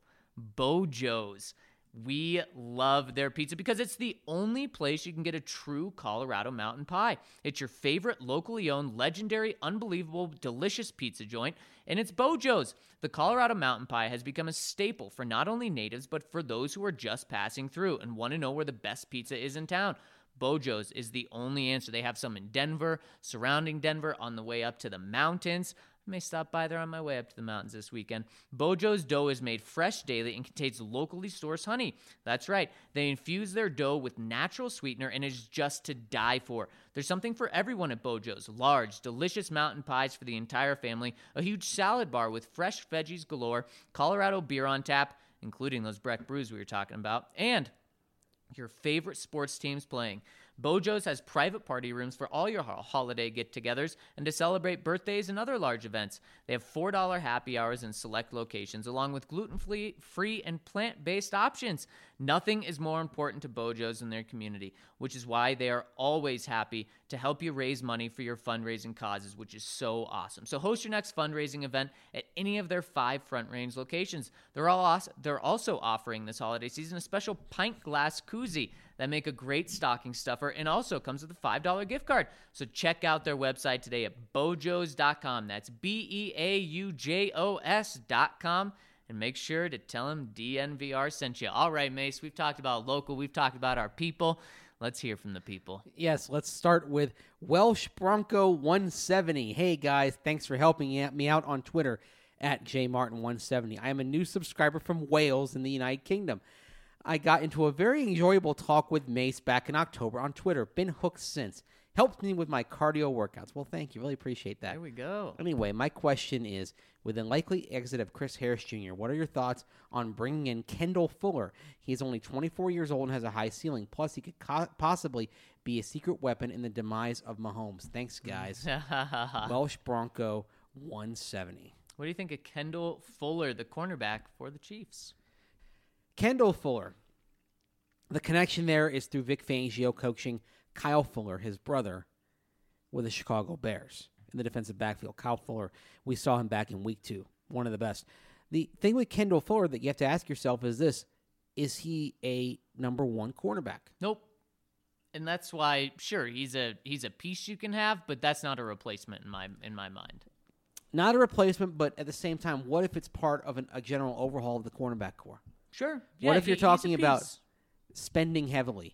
Bojo's. We love their pizza because it's the only place you can get a true Colorado mountain pie. It's your favorite locally owned, legendary, unbelievable, delicious pizza joint, and it's Bojo's. The Colorado mountain pie has become a staple for not only natives, but for those who are just passing through and want to know where the best pizza is in town. Bojo's is the only answer. They have some in Denver, surrounding Denver, on the way up to the mountains. I may stop by there on my way up to the mountains this weekend. Bojo's dough is made fresh daily and contains locally sourced honey. That's right. They infuse their dough with natural sweetener and is just to die for. There's something for everyone at Bojo's. Large, delicious mountain pies for the entire family, a huge salad bar with fresh veggies galore, Colorado beer on tap, including those Breck brews we were talking about, and your favorite sports teams playing. Bojo's has private party rooms for all your ho- holiday get-togethers and to celebrate birthdays and other large events. They have four dollar happy hours in select locations, along with gluten-free free and plant-based options. Nothing is more important to Bojo's in their community, which is why they are always happy to help you raise money for your fundraising causes, which is so awesome. So host your next fundraising event at any of their five Front Range locations. They're all awesome. They're also offering this holiday season a special pint glass koozie that make a great stocking stuffer and also comes with a five dollar gift card. So check out their website today at bojos dot com. That's B E A U J O S dot com. And make sure to tell them D N V R sent you. All right, Mace, we've talked about local. We've talked about our people. Let's hear from the people. Yes, let's start with Welsh Bronco one seventy. Hey, guys, thanks for helping me out on Twitter at J Martin one seventy. I am a new subscriber from Wales in the United Kingdom. I got into a very enjoyable talk with Mace back in October on Twitter. Been hooked since. Helped me with my cardio workouts. Well, thank you. Really appreciate that. There we go. Anyway, my question is, with the likely exit of Chris Harris Junior, what are your thoughts on bringing in Kendall Fuller? He is only twenty-four years old and has a high ceiling. Plus, he could co- possibly be a secret weapon in the demise of Mahomes. Thanks, guys. Welsh Bronco one seventy. What do you think of Kendall Fuller, the cornerback for the Chiefs? Kendall Fuller. The connection there is through Vic Fangio coaching Kyle Fuller, his brother, with the Chicago Bears in the defensive backfield. Kyle Fuller, we saw him back in week two, one of the best. The thing with Kendall Fuller that you have to ask yourself is this: is he a number one cornerback? Nope. And that's why, sure, he's a he's a piece you can have, but that's not a replacement in my in my mind. Not a replacement, but at the same time, what if it's part of an, a general overhaul of the cornerback core? Sure. What Yeah, if you're he- he's a talking about piece. spending heavily?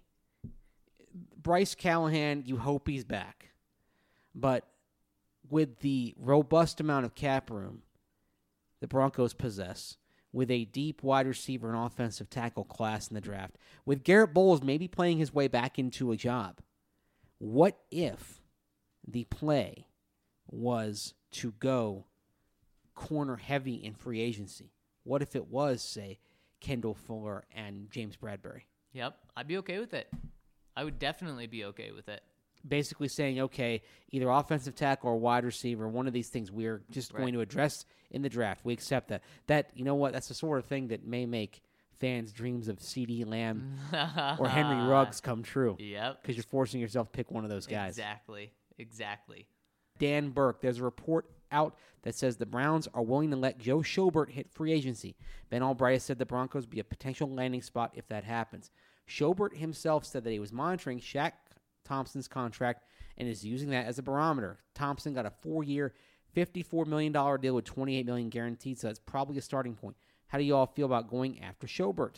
Bryce Callahan, you hope he's back. But with the robust amount of cap room the Broncos possess, with a deep wide receiver and offensive tackle class in the draft, with Garrett Bowles maybe playing his way back into a job, what if the play was to go corner heavy in free agency? What if it was, say, Kendall Fuller and James Bradbury? Yep, I'd be okay with it. I would definitely be okay with it. Basically saying, okay, either offensive tackle or wide receiver, one of these things we're just Right. going to address in the draft. We accept that. That, you know what, that's the sort of thing that may make fans' dreams of CeeDee Lamb or Henry Ruggs come true. Yep. Because you're forcing yourself to pick one of those guys. Exactly. Exactly. Dan Burke, there's a report out that says the Browns are willing to let Joe Schobert hit free agency. Ben Albright said the Broncos would be a potential landing spot if that happens. Schobert himself said that he was monitoring Shaq Thompson's contract and is using that as a barometer. Thompson got a four-year, fifty-four million dollars deal with twenty-eight million dollars guaranteed, so that's probably a starting point. How do you all feel about going after Schobert?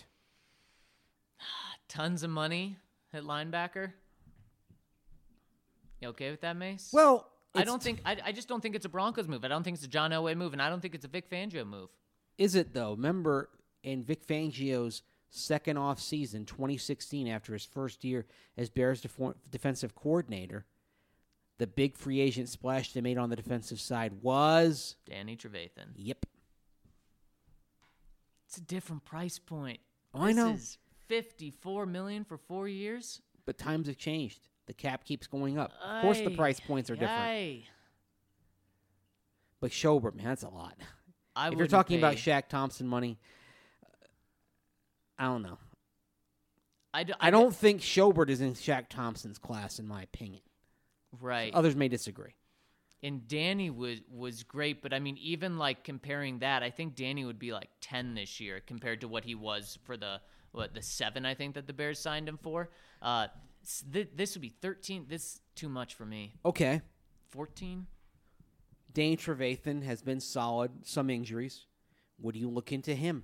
Tons of money at linebacker. You okay with that, Mace? Well, I don't think I, I just don't think it's a Broncos move. I don't think it's a John Elway move, and I don't think it's a Vic Fangio move. is it, though? Remember, in Vic Fangio's second off season, twenty sixteen, after his first year as Bears def- defensive coordinator, the big free agent splash they made on the defensive side was Danny Trevathan. Yep. It's a different price point. Oh, I this know. is fifty-four million dollars for four years. But times have changed. The cap keeps going up. Of course, the Aye, price points are different. aye. But Schobert, man, that's a lot. I if you're wouldn't talking pay- about Shaq Thompson money, I don't know. I, d- I don't think Schobert is in Shaq Thompson's class, in my opinion. Right. Others may disagree. And Danny was was great, but I mean, even like comparing that, I think Danny would be like ten this year compared to what he was for the what the seven I think that the Bears signed him for. Uh, s- th- this would be thirteen. This is too much for me. Okay. Fourteen. Dane Trevathan has been solid, some injuries. Would you look into him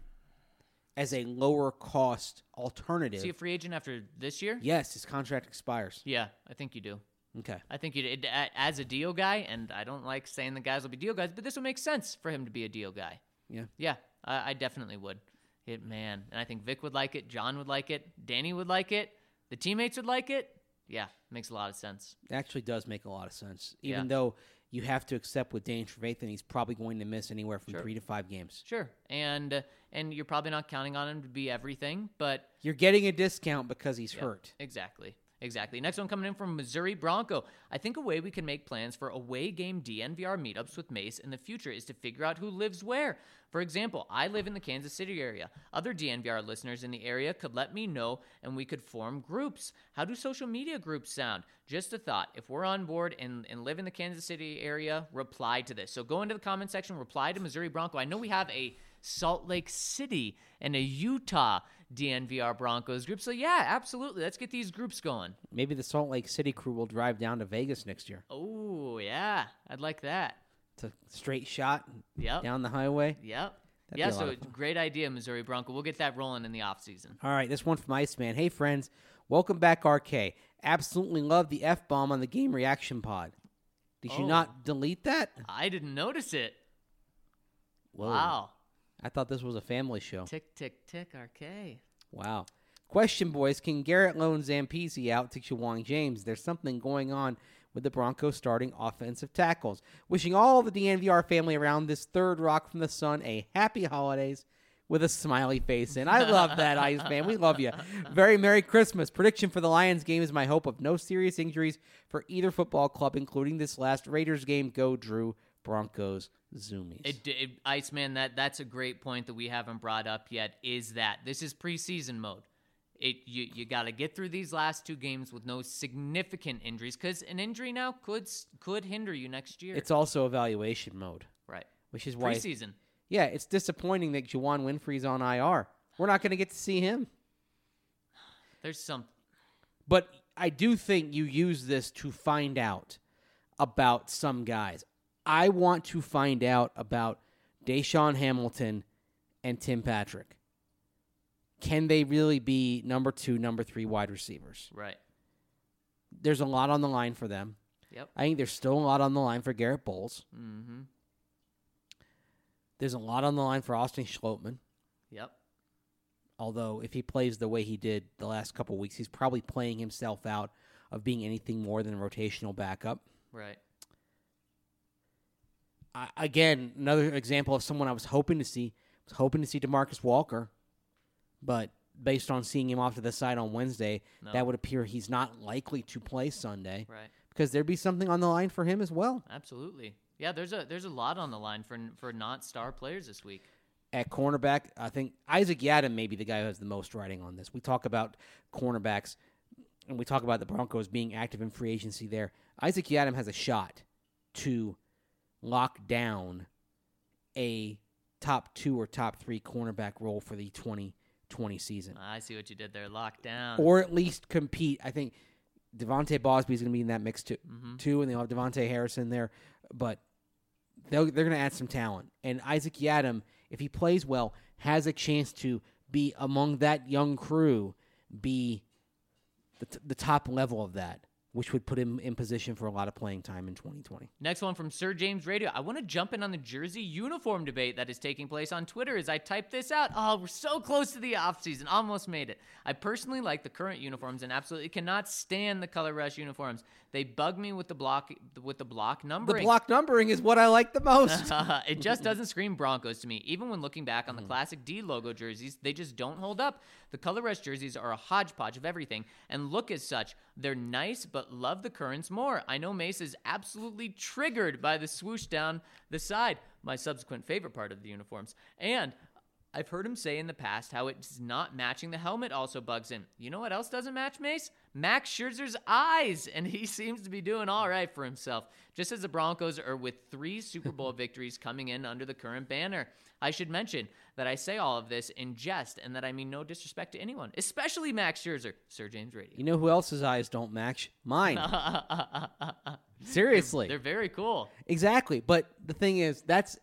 as a lower cost alternative? Is he a free agent after this year? Yes, his contract expires. Yeah, I think you do. Okay. I think you it, a- as a deal guy, and I don't like saying the guys will be deal guys, but this would make sense for him to be a deal guy. Yeah. Yeah, I, I definitely would. It man, and I think Vic would like it. John would like it. Danny would like it. The teammates would like it. Yeah, makes a lot of sense. It actually does make a lot of sense. Even Yeah. though you have to accept with Dane Trevathan, he's probably going to miss anywhere from Sure. three to five games. Sure, and uh, and you're probably not counting on him to be everything, but You're getting a discount because he's yeah, hurt. Exactly. Exactly. Next one coming in from Missouri Bronco. I think a way we can make plans for away game D N V R meetups with Mace in the future is to figure out who lives where. For example, I live in the Kansas City area. Other D N V R listeners in the area could let me know and we could form groups. How do social media groups sound? Just a thought. If we're on board and, and live in the Kansas City area, reply to this. So go into the comment section, reply to Missouri Bronco. I know we have a Salt Lake City and a Utah D N V R Broncos group. So yeah, absolutely. Let's get these groups going. Maybe the Salt Lake City crew will drive down to Vegas next year. Oh, yeah. I'd like that. It's a straight shot Yep. down the highway. Yep. That'd yeah, be a lot so of fun. great idea, Missouri Bronco. We'll get that rolling in the offseason. All right, this one from Iceman. Hey, friends. Welcome back, R K. Absolutely love the F-bomb on the Game Reaction Pod. Did you Oh. not delete that? I didn't notice it. Whoa. Wow. I thought this was a family show. Tick, tick, tick, R K. Wow. Question, boys. Can Garrett loan Zampezi out to Jawang James? There's something going on with the Broncos starting offensive tackles. Wishing all the D N V R family around this third rock from the sun a happy holidays with a smiley face in. I love that, Iceman. We love you. Very Merry Christmas. Prediction for the Lions game is my hope of no serious injuries for either football club, including this last Raiders game. Go, Drew. Broncos. Zoomies. It, it, Iceman, that, that's a great point that we haven't brought up yet, is that this is preseason mode. It You, you got to get through these last two games with no significant injuries, because an injury now could could hinder you next year. It's also evaluation mode, right. which is why Preseason. Yeah, it's disappointing that Juwan Winfrey's on I R. We're not going to get to see him. There's some. But I do think you use this to find out about some guys. I want to find out about Deshaun Hamilton and Tim Patrick. Can they really be number two, number three wide receivers? Right. There's a lot on the line for them. Yep. I think there's still a lot on the line for Garrett Bowles. Mm-hmm. There's a lot on the line for Austin Schlottman. Yep. Although if he plays the way he did the last couple weeks, he's probably playing himself out of being anything more than a rotational backup. Right. I, again, another example of someone I was hoping to see. I was hoping to see DeMarcus Walker, but based on seeing him off to the side on Wednesday, No. that would appear he's not likely to play Sunday Right. because there'd be something on the line for him as well. Absolutely. Yeah, there's a there's a lot on the line for for not star players this week. At cornerback, I think Isaac Yadam may be the guy who has the most writing on this. We talk about cornerbacks, and we talk about the Broncos being active in free agency there. Isaac Yadam has a shot to lock down a top two or top three cornerback role for the twenty twenty season. I see what you did there. Locked down. Or at least compete. I think Devontae Bosby is going to be in that mix too, Mhm. too, and they'll have Devontae Harrison there. But they'll, they're going to add some talent. And Isaac Yadam, if he plays well, has a chance to be among that young crew, be the, t- the top level of that. which would put him in position for a lot of playing time in twenty twenty. Next one from Sir James Radio. I want to jump in on the jersey uniform debate that is taking place on Twitter as I type this out. Oh, we're so close to the offseason. Almost made it. I personally like the current uniforms and absolutely cannot stand the Color Rush uniforms. They bug me with the block with the block numbering. The block numbering is what I like the most. It just doesn't scream Broncos to me. Even when looking back on the classic D logo jerseys, they just don't hold up. The Color Rush jerseys are a hodgepodge of everything and look as such. They're nice, but love the currents more. I know Mace is absolutely triggered by the swoosh down the side, my subsequent favorite part of the uniforms. And I've heard him say in the past how it's not matching the helmet also bugs him. You know what else doesn't match, Mace? Max Scherzer's eyes, and he seems to be doing all right for himself, just as the Broncos are with three Super Bowl victories coming in under the current banner. I should mention that I say all of this in jest and that I mean no disrespect to anyone, especially Max Scherzer. Sir James Radio. You know who else's eyes don't match? Mine. Seriously. They're very cool. Exactly. But the thing is, that's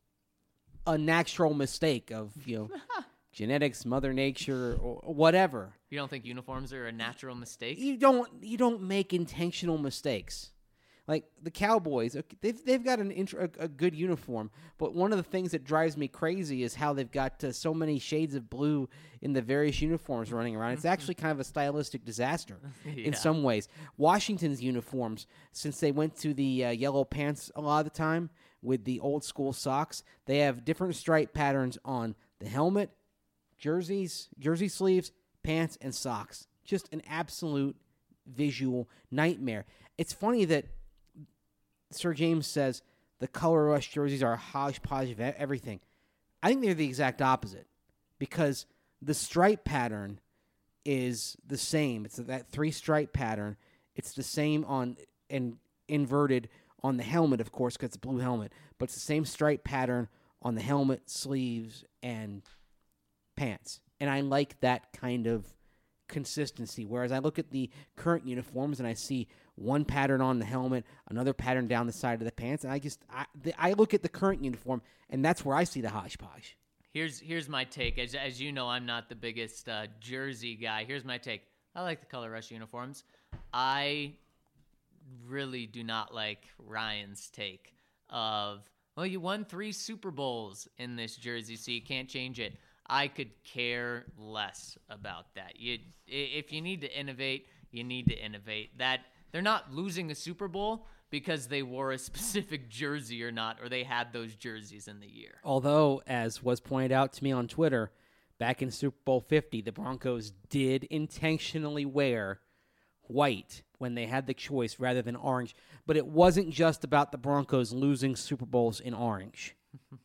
a natural mistake of, you know, genetics, Mother Nature, or whatever. You don't think uniforms are a natural mistake? You don't you don't make intentional mistakes. Like the Cowboys, they've they've got an int- a, a good uniform, but one of the things that drives me crazy is how they've got uh, so many shades of blue in the various uniforms running around. It's actually kind of a stylistic disaster Yeah. in some ways. Washington's uniforms, since they went to the uh, yellow pants a lot of the time with the old school socks, they have different stripe patterns on the helmet, jerseys, jersey sleeves, pants, and socks. Just an absolute visual nightmare. It's funny that Sir James says the Color Rush jerseys are a hodgepodge of everything. I think they're the exact opposite because the stripe pattern is the same. It's that three-stripe pattern. It's the same on and inverted on the helmet, of course, because it's a blue helmet. But it's the same stripe pattern on the helmet, sleeves, and pants. And I like that kind of consistency. Whereas I look at the current uniforms and I see one pattern on the helmet, another pattern down the side of the pants, and I just I, the, I look at the current uniform, and that's where I see the hodgepodge. Here's here's my take. As as you know, I'm not the biggest uh, jersey guy. Here's my take. I like the Color Rush uniforms. I really do not like Ryan's take of, well, you won three Super Bowls in this jersey, so you can't change it. I could care less about that. You, if you need to innovate, you need to innovate. That they're not losing a Super Bowl because they wore a specific jersey or not, or they had those jerseys in the year. Although, as was pointed out to me on Twitter, back in Super Bowl fifty, the Broncos did intentionally wear white when they had the choice rather than orange. But it wasn't just about the Broncos losing Super Bowls in orange.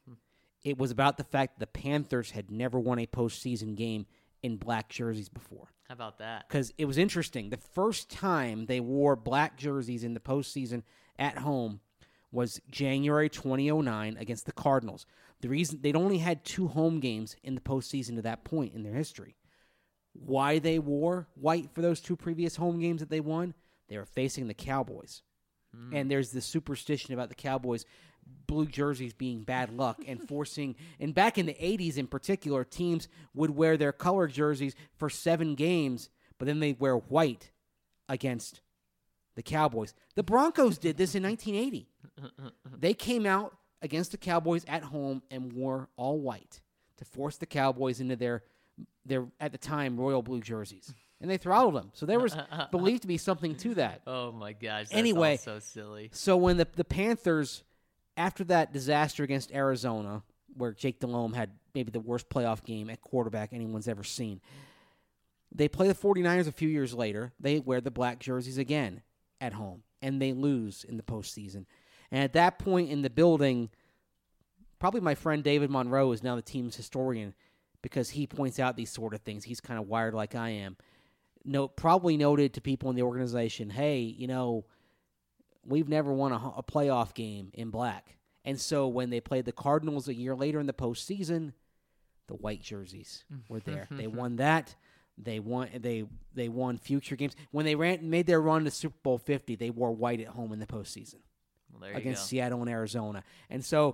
It was about the fact that the Panthers had never won a postseason game in black jerseys before. How about that? Because it was interesting. The first time they wore black jerseys in the postseason at home was January twenty oh nine against the Cardinals. The reason they'd only had two home games in the postseason to that point in their history. Why they wore white for those two previous home games that they won? They were facing the Cowboys. Mm. And there's this superstition about the Cowboys blue jerseys being bad luck and forcing, and back in the eighties in particular, teams would wear their color jerseys for seven games, but then they'd wear white against the Cowboys. The Broncos did this in nineteen eighty. They came out against the Cowboys at home and wore all white to force the Cowboys into their, their at the time, royal blue jerseys. And they throttled them. So there was believed to be something to that. Oh, my gosh. That's anyway, all so silly. So when the, the Panthers, after that disaster against Arizona, where Jake Delhomme had maybe the worst playoff game at quarterback anyone's ever seen, they play the 49ers a few years later. They wear the black jerseys again at home, and they lose in the postseason. And at that point in the building, probably my friend David Monroe is now the team's historian because he points out these sort of things. He's kind of wired like I am. No, probably noted to people in the organization, hey, you know, we've never won a, a playoff game in black. And so when they played the Cardinals a year later in the postseason, the white jerseys were there. They won that. They won. They they won future games. When they ran made their run to Super Bowl fifty, they wore white at home in the postseason well, there you against go. Seattle and Arizona. And so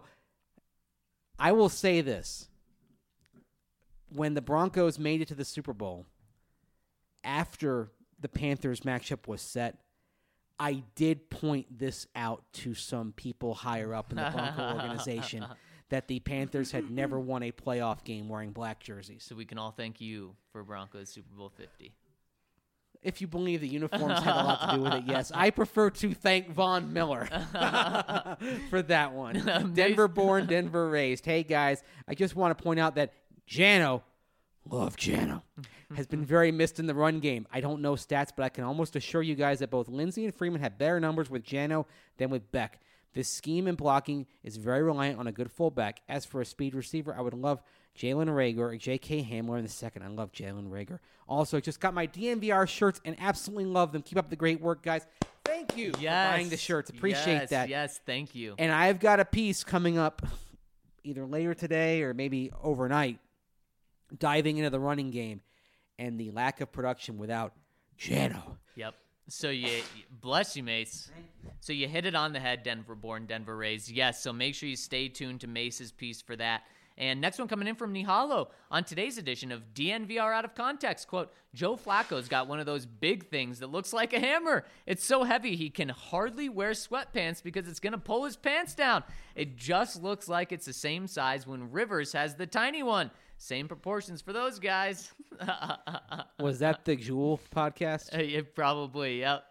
I will say this: when the Broncos made it to the Super Bowl, after the Panthers matchup was set, I did point this out to some people higher up in the Bronco organization that the Panthers had never won a playoff game wearing black jerseys. So we can all thank you for Broncos Super Bowl fifty. If you believe the uniforms had a lot to do with it, yes. I prefer to thank Von Miller for that one. Denver born, Denver raised. Hey, guys, I just want to point out that Jano, love Jano, has been very missed in the run game. I don't know stats, but I can almost assure you guys that both Lindsey and Freeman have better numbers with Jano than with Beck. This scheme and blocking is very reliant on a good fullback. As for a speed receiver, I would love Jalen Rager or J K Hamler in the second. I love Jalen Rager. Also, just got my D N V R shirts and absolutely love them. Keep up the great work, guys. Thank you yes. for buying the shirts. Appreciate yes, that. Yes, thank you. And I've got a piece coming up either later today or maybe overnight diving into the running game and the lack of production without Jano. Yep. So you, bless you, Mace. So you hit it on the head, Denver born, Denver raised. Yes, so make sure you stay tuned to Mace's piece for that. And next one coming in from Nihalo on today's edition of D N V R Out of Context. Quote, Joe Flacco's got one of those big things that looks like a hammer. It's so heavy he can hardly wear sweatpants because it's going to pull his pants down. It just looks like it's the same size when Rivers has the tiny one. Same proportions for those guys. Was that the Jewel podcast? Uh, yeah, probably, yep.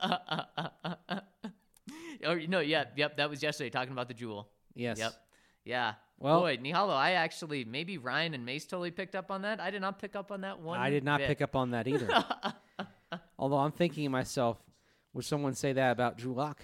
Or no, yeah, yep, that was yesterday talking about the Jewel. Yes. Yep. Yeah. Well, boy, Nihalo, I actually, maybe Ryan and Mace totally picked up on that. I did not pick up on that one I did not bit. pick up on that either. Although I'm thinking to myself, would someone say that about Drew Lock?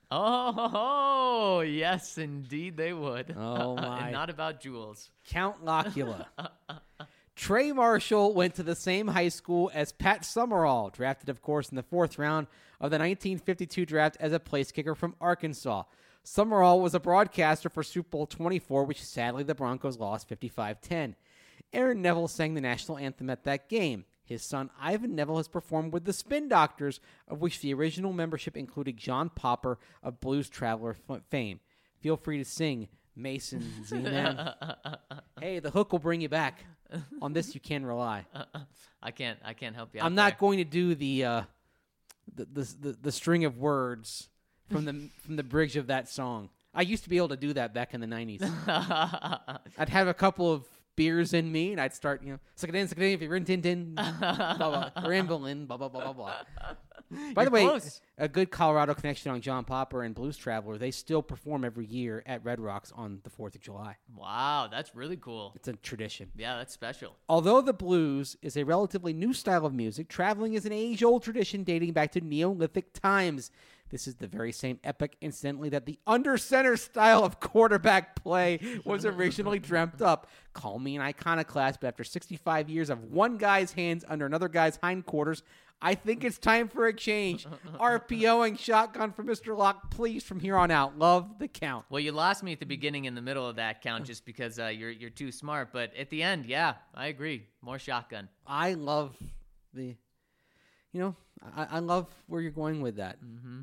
Oh, yes, indeed they would. Oh, my. And not about jewels. Count Locula. Trey Marshall went to the same high school as Pat Summerall, drafted, of course, in the fourth round of the nineteen fifty-two draft as a place kicker from Arkansas. Summerall was a broadcaster for Super Bowl twenty-four, which sadly the Broncos lost fifty-five ten. Aaron Neville sang the national anthem at that game. His son Ivan Neville has performed with the Spin Doctors, of which the original membership included John Popper of Blues Traveler f- fame. Feel free to sing, Mason Z-Man. Hey, the hook will bring you back. On this, you can rely. I can't. I can't help you. Out I'm not there. going to do the, uh, the, the the the string of words from the from the bridge of that song. I used to be able to do that back in the nineties. I'd have a couple of beers in me, and I'd start, you know, suck it in, suck it in, if you're in tin tin, blah, blah, rambling, blah, blah, blah, blah, blah. By You're the way, close. a good Colorado connection on John Popper and Blues Traveler. They still perform every year at Red Rocks on the fourth of July. Wow, that's really cool. It's a tradition. Yeah, that's special. Although the blues is a relatively new style of music, traveling is an age-old tradition dating back to Neolithic times. This is the very same epic, incidentally, that the under-center style of quarterback play was originally dreamt up. Call me an iconoclast, but after sixty-five years of one guy's hands under another guy's hindquarters, I think it's time for a change. RPOing shotgun for Mister Locke, please, from here on out. Love the count. Well, you lost me at the beginning and the middle of that count just because uh, you're you're too smart. But at the end, yeah, I agree. More shotgun. I love the, you know, I, I love where you're going with that. Mm-hmm.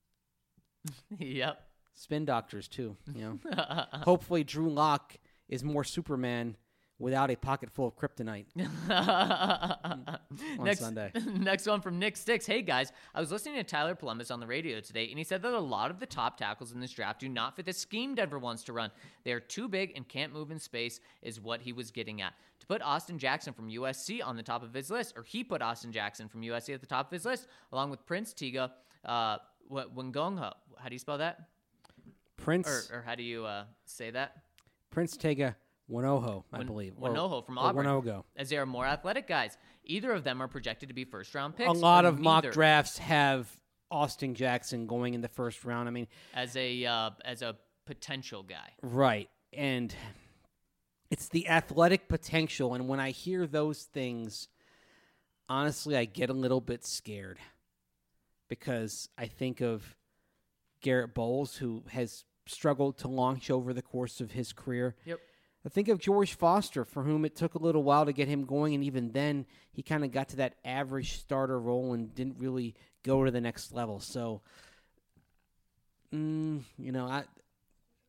Yep. Spin doctors, too, you know. Hopefully Drew Lock is more Superman without a pocket full of kryptonite on next, Sunday. Next one from Nick Sticks. Hey, guys, I was listening to Tyler Columbus on the radio today, and he said that a lot of the top tackles in this draft do not fit the scheme Denver wants to run. They are too big and can't move in space is what he was getting at. To put Austin Jackson from U S C on the top of his list, or he put Austin Jackson from U S C at the top of his list, along with Prince Tega, uh, Wingongho. How do you spell that? Prince Or, or how do you uh, say that? Prince Tega Winoho, I Win- believe. Or- Winoho from or Auburn. Winogo. As they are more athletic guys. Either of them are projected to be first-round picks. A lot or of mock neither. drafts have Austin Jackson going in the first round. I mean, as a uh, as a potential guy. right. And it's the athletic potential. And when I hear those things, honestly, I get a little bit scared because I think of Garrett Bowles, who has struggled to launch over the course of his career. Yep. I think of George Foster, for whom it took a little while to get him going, and even then he kind of got to that average starter role and didn't really go to the next level. So, mm, you know, I,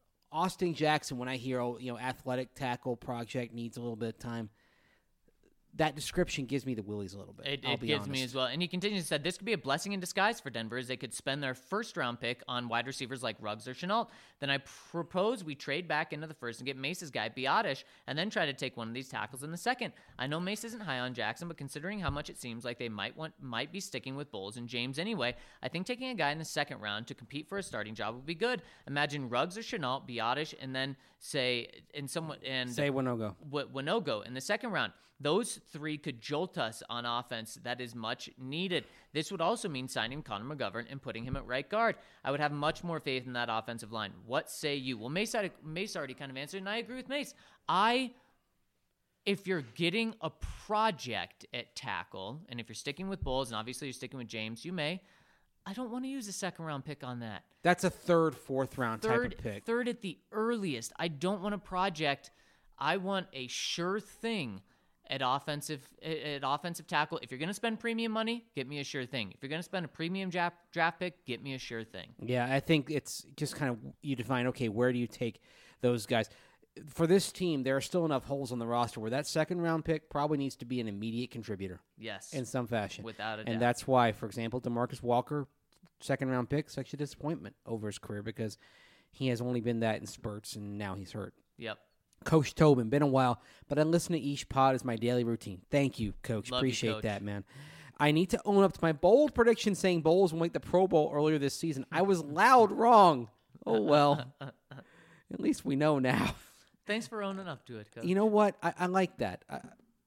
Austin Jackson, when I hear, oh, you know, athletic tackle project needs a little bit of time, that description gives me the willies a little bit. It, I'll it be gives honest. me as well. And he continues to say, this could be a blessing in disguise for Denver as they could spend their first-round pick on wide receivers like Ruggs or Chenault. Then I propose we trade back into the first and get Mace's guy, Biotish, and then try to take one of these tackles in the second. I know Mace isn't high on Jackson, but considering how much it seems like they might want might be sticking with Bowles and James anyway, I think taking a guy in the second round to compete for a starting job would be good. Imagine Ruggs or Chenault, Biotish, and then say in someone and Say Winogo. W- Winogo in the second round. Those three could jolt us on offense that is much needed. This would also mean signing Connor McGovern and putting him at right guard. I would have much more faith in that offensive line. What say you? Well, Mace, Mace already kind of answered, and I agree with Mace. I, if you're getting a project at tackle, and if you're sticking with Bowles, and obviously you're sticking with James, you may. I don't want to use a second-round pick on that. That's a third, fourth round Third, type of pick. Third at the earliest. I don't want a project. I want a sure thing at offensive at offensive tackle. If you're going to spend premium money, get me a sure thing. If you're going to spend a premium draft, draft pick, get me a sure thing. Yeah, I think it's just kind of you define, okay, where do you take those guys? For this team, there are still enough holes on the roster where that second-round pick probably needs to be an immediate contributor. Yes. In some fashion. Without a doubt. And that's why, for example, DeMarcus Walker, second-round pick, such a disappointment over his career because he has only been that in spurts, and now he's hurt. Yep. Coach Tobin, been a while, but I listen to each pod as my daily routine. Thank you, Coach. Love Appreciate you, Coach. that, man. I need to own up to my bold prediction saying Bowles will make the Pro Bowl earlier this season. I was loud wrong. Oh, well. At least we know now. Thanks for owning up to it, Coach. You know what? I, I like that. I,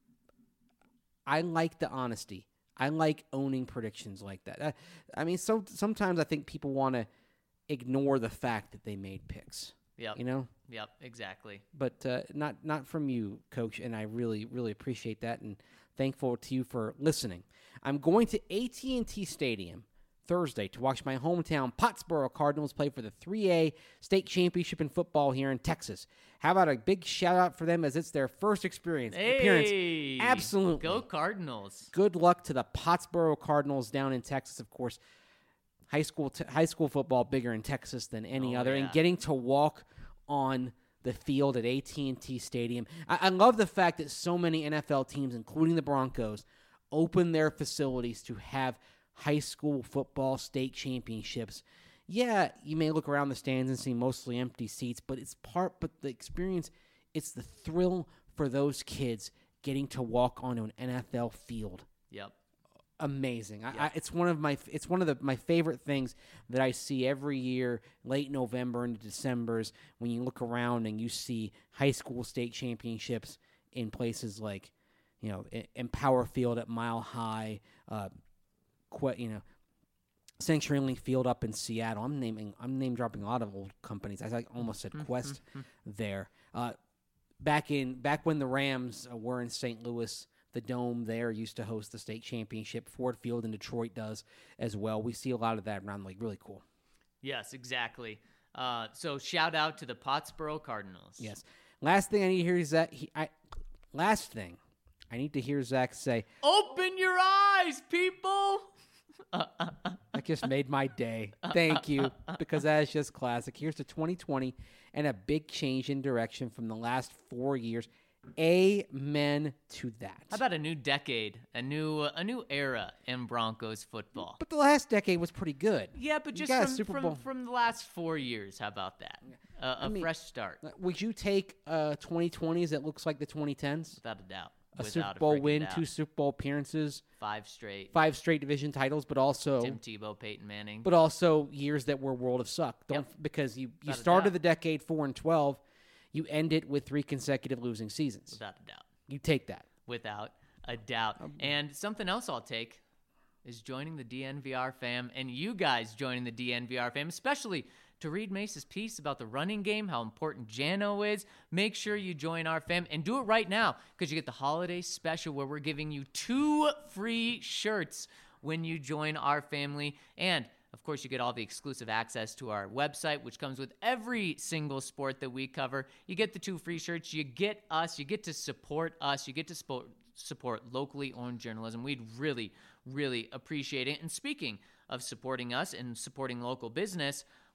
I like the honesty. I like owning predictions like that. I, I mean, so sometimes I think people want to ignore the fact that they made picks. Yep. You know? Yep, exactly. But uh, not not from you, Coach, and I really, really appreciate that and thankful to you for listening. I'm going to A T and T Stadium Thursday to watch my hometown Pottsboro Cardinals play for the three A state championship in football here in Texas. How about a big shout-out for them as it's their first experience Hey, appearance? Absolutely. Go Cardinals. Good luck to the Pottsboro Cardinals down in Texas, of course. High school t- high school football bigger in Texas than any Oh, other, yeah. and getting to walk on the field at A T and T Stadium. I-, I love the fact that so many N F L teams, including the Broncos, open their facilities to have high school football state championships. Yeah, you may look around the stands and see mostly empty seats, but it's part, but the experience, it's the thrill for those kids getting to walk onto an N F L field. Yep. Amazing. I, Yeah. I, it's one of my it's one of the my favorite things that I see every year, late November into December's, when you look around and you see high school state championships in places like, you know, in, in Power Field at Mile High, uh, que, you know, CenturyLink Field up in Seattle. I'm naming I'm name dropping a lot of old companies. I like, almost said Quest there. Uh, back in back when the Rams uh, were in Saint Louis. The Dome there used to host the state championship. Ford Field in Detroit does as well. We see a lot of that around, like, really cool. Yes, exactly. Uh, so shout out to the Pottsboro Cardinals. Yes. Last thing I need to hear is that he, I, last thing I need to hear Zach say, Open your eyes, people. that just made my day. Thank you, because that is just classic. Here's to twenty twenty and a big change in direction from the last four years. Amen to that. How about a new decade, a new a new era in Broncos football? But the last decade was pretty good. Yeah, but You just got a from, Super from, Bowl. from the last four years. How about that? Uh, a mean, fresh start, Uh, Would you take uh, twenty twenties that looks like the twenty tens? without a doubt. A Without Super Bowl freaking win, doubt. two Super Bowl appearances, Five straight. five straight division titles, but also Tim Tebow, Peyton Manning. but also years that were world of suck. Don't because you, you Without a started doubt. the decade four and twelve, you end it with three consecutive losing seasons. Without a doubt. You take that. Without a doubt. Um, And something else I'll take is joining the D N V R fam, and you guys joining the D N V R fam, especially to read Mace's piece about the running game, how important Jano is. Make sure you join our fam, and do it right now, because you get the holiday special where we're giving you two free shirts when you join our family. And of course, you get all the exclusive access to our website, which comes with every single sport that we cover. You get the two free shirts. You get us. You get to support us. You get to support, support locally owned journalism. We'd really, really appreciate it. And speaking of supporting us and supporting local business,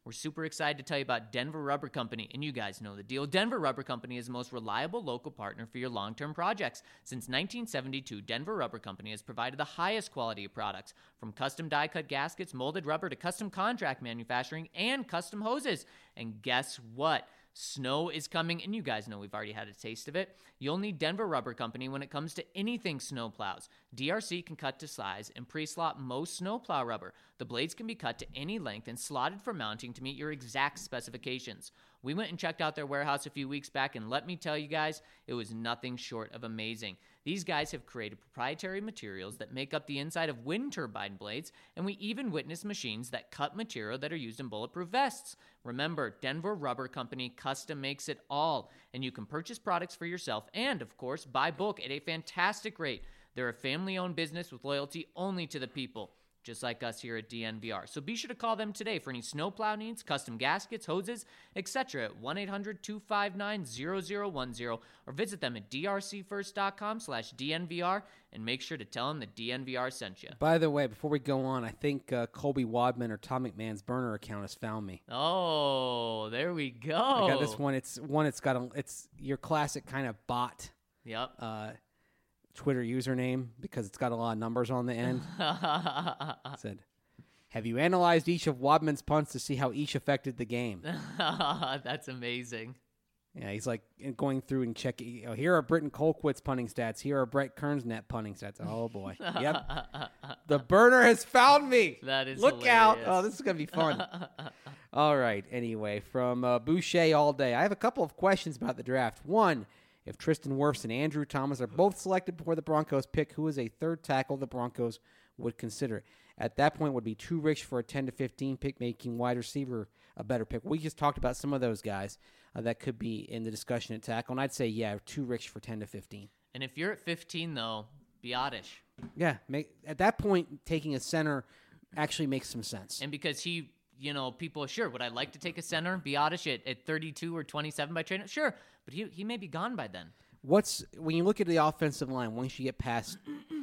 we're super excited to tell you about Denver Rubber Company, and you guys know the deal. Denver Rubber Company is the most reliable local partner for your long-term projects. Since nineteen seventy-two, Denver Rubber Company has provided the highest quality of products, from custom die-cut gaskets, molded rubber, to custom contract manufacturing and custom hoses. And guess what? Snow is coming, and you guys know we've already had a taste of it. You'll need Denver Rubber Company when it comes to anything snow plows. D R C can cut to size and pre-slot most snow plow rubber. The blades can be cut to any length and slotted for mounting to meet your exact specifications. We went and checked out their warehouse a few weeks back, and let me tell you guys, it was nothing short of amazing. These guys have created proprietary materials that make up the inside of wind turbine blades, and we even witnessed machines that cut material that are used in bulletproof vests. Remember, Denver Rubber Company custom makes it all, and you can purchase products for yourself and, of course, buy bulk at a fantastic rate. They're a family-owned business with loyalty only to the people, just like us here at D N V R. So be sure to call them today for any snowplow needs, custom gaskets, hoses, et cetera at one eight hundred two five nine zero zero one zero, or visit them at d r c first dot com slash D N V R, and make sure to tell them that D N V R sent you. By the way, before we go on, I think uh, Colby Wadman or Tom McMahon's burner account has found me. Oh, there we go. I got this one. It's one. It's got a. It's your classic kind of bot. Yep. Uh, Twitter username, because it's got a lot of numbers on the end. It said, have you analyzed each of Wadman's punts to see how each affected the game? That's amazing. Yeah, he's like going through and checking. You know, here are Britton Colquitt's punting stats. Here are Brett Kern's net punting stats. Oh, boy. Yep. The burner has found me. That is Look hilarious. out. Oh, this is going to be fun. All right. Anyway, from uh, Boucher all day. I have a couple of questions about the draft. One, if Tristan Wirfs and Andrew Thomas are both selected before the Broncos pick, who is a third tackle the Broncos would consider? At that point, would be too rich for a ten to fifteen pick, making wide receiver a better pick. We just talked about some of those guys uh, that could be in the discussion at tackle, and I'd say, yeah, too rich for ten to fifteen. And if you're at fifteen, though, be oddish. Yeah, make, at that point, taking a center actually makes some sense. And because he, you know, people are sure, would I like to take a center, be oddish at, at thirty-two or twenty-seven by trade? Sure, but he he may be gone by then. What's when you look at the offensive line, once you get past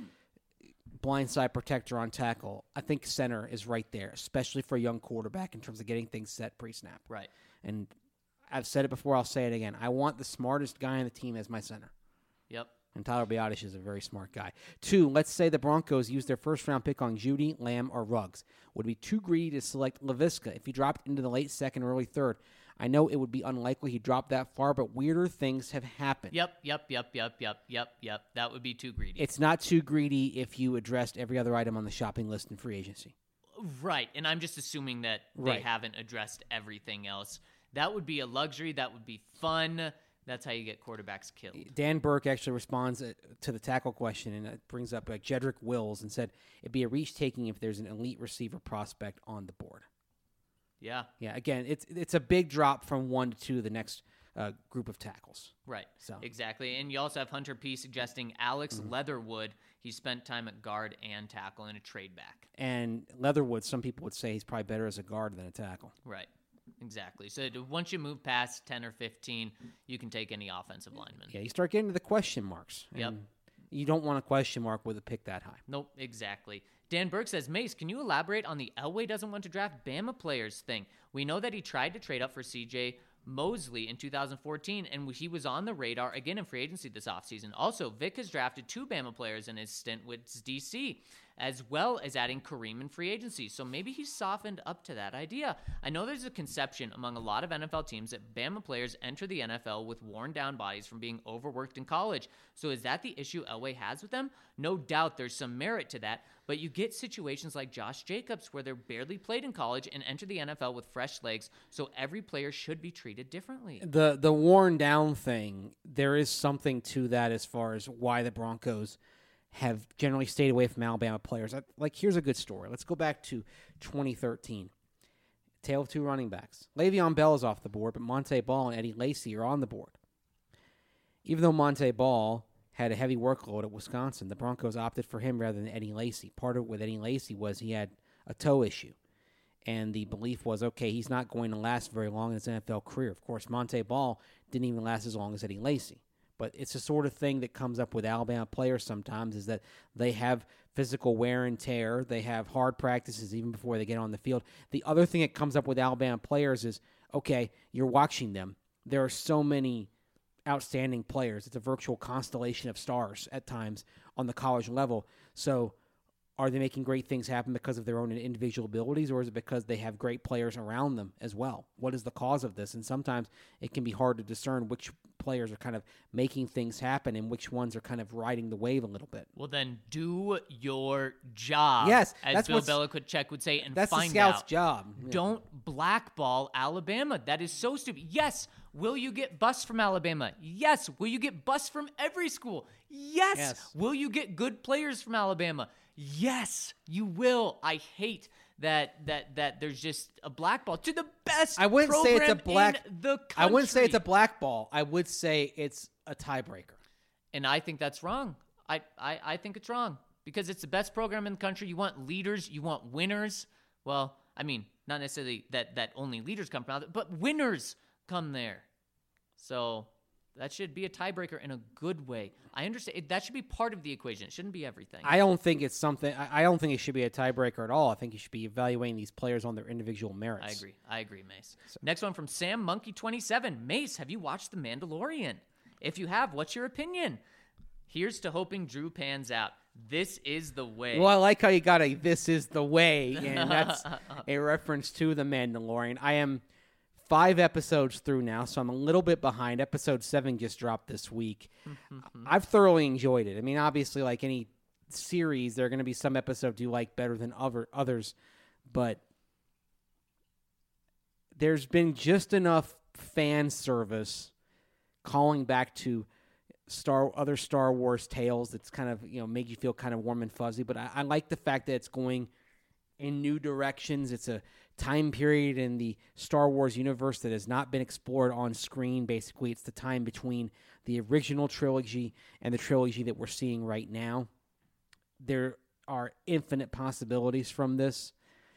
blindside protector on tackle, I think center is right there, especially for a young quarterback in terms of getting things set pre-snap. Right. And I've said it before, I'll say it again. I want the smartest guy on the team as my center. Yep. And Tyler Biadasz is a very smart guy. Two, let's say the Broncos use their first-round pick on Judy, Lamb, or Ruggs. Would it be too greedy to select Laviska if he dropped into the late second or early third? I know it would be unlikely he dropped that far, but weirder things have happened. Yep, yep, yep, yep, yep, yep, yep. That would be too greedy. It's not too greedy if you addressed every other item on the shopping list in free agency. Right, and I'm just assuming that they Right. haven't addressed everything else. That would be a luxury. That would be fun. That's how you get quarterbacks killed. Dan Burke actually responds uh, to the tackle question, and it brings up uh, Jedrick Wills and said it'd be a reach taking if there's an elite receiver prospect on the board. Yeah. Yeah, again, it's it's a big drop from one to two, the next uh, group of tackles. Right. So. Exactly. And you also have Hunter P. suggesting Alex mm-hmm. Leatherwood. He spent time at guard and tackle in a trade back. And Leatherwood, some people would say he's probably better as a guard than a tackle. Right. Exactly. So once you move past ten or fifteen, you can take any offensive lineman. Yeah, you start getting to the question marks. Yep. You don't want a question mark with a pick that high. Nope, exactly. Dan Burke says, Mace, can you elaborate on the Elway doesn't want to draft Bama players thing? We know that he tried to trade up for C J Mosley in two thousand fourteen, and he was on the radar again in free agency this offseason. Also, Vic has drafted two Bama players in his stint with D C, as well as adding Kareem in free agency. So maybe he's softened up to that idea. I know there's a conception among a lot of N F L teams that Bama players enter the N F L with worn down bodies from being overworked in college. So is that the issue Elway has with them? No doubt there's some merit to that, but you get situations like Josh Jacobs where they're barely played in college and enter the N F L with fresh legs, so every player should be treated differently. The the worn down thing, there is something to that as far as why the Broncos have generally stayed away from Alabama players. Like, here's a good story. Let's go back to twenty thirteen. Tale of two running backs. Le'Veon Bell is off the board, but Monte Ball and Eddie Lacy are on the board. Even though Monte Ball had a heavy workload at Wisconsin, the Broncos opted for him rather than Eddie Lacy. Part of it with Eddie Lacy was he had a toe issue. And the belief was, okay, he's not going to last very long in his N F L career. Of course, Monte Ball didn't even last as long as Eddie Lacy. But it's the sort of thing that comes up with Alabama players sometimes is that they have physical wear and tear. They have hard practices even before they get on the field. The other thing that comes up with Alabama players is, okay, you're watching them. There are so many outstanding players. It's a virtual constellation of stars at times on the college level. So are they making great things happen because of their own individual abilities, or is it because they have great players around them as well? What is the cause of this? And sometimes it can be hard to discern which players are kind of making things happen and which ones are kind of riding the wave a little bit. Well, then do your job. Yes, as that's Bill what's- Belichick would say, and That's find the scout's out. job. Yeah. Don't blackball Alabama. That is so stupid. Yes. Will you get busts from Alabama? Yes. Will you get busts from every school? Yes. Yes. Will you get good players from Alabama? Yes, you will. I hate that that that there's just a blackball to the best I wouldn't say it's a program black. in the country. I wouldn't say it's a blackball. I would say it's a tiebreaker. And I think that's wrong. I, I, I think it's wrong because it's the best program in the country. You want leaders. You want winners. Well, I mean, not necessarily that, that only leaders come from, but winners come there. So that should be a tiebreaker in a good way. I understand. It, that should be part of the equation. It shouldn't be everything. I don't think it's something. I, I don't think it should be a tiebreaker at all. I think you should be evaluating these players on their individual merits. I agree. I agree, Mace. Next one from Sam Monkey twenty-seven. Mace, have you watched The Mandalorian? If you have, what's your opinion? Here's to hoping Drew pans out. This is the way. Well, I like how you got a "this is the way," and that's a reference to The Mandalorian. I am five episodes through now, so I'm a little bit behind. Episode seven just dropped this week. I've thoroughly enjoyed it. I mean, obviously, like any series, there are going to be some episodes you like better than other others, but there's been just enough fan service calling back to Star other Star Wars tales that's kind of, you know, make you feel kind of warm and fuzzy. But I, I like the fact that it's going in new directions. It's a time period in the Star Wars universe that has not been explored on screen. Basically, it's the time between the original trilogy and the trilogy that we're seeing right now. There are infinite possibilities from this.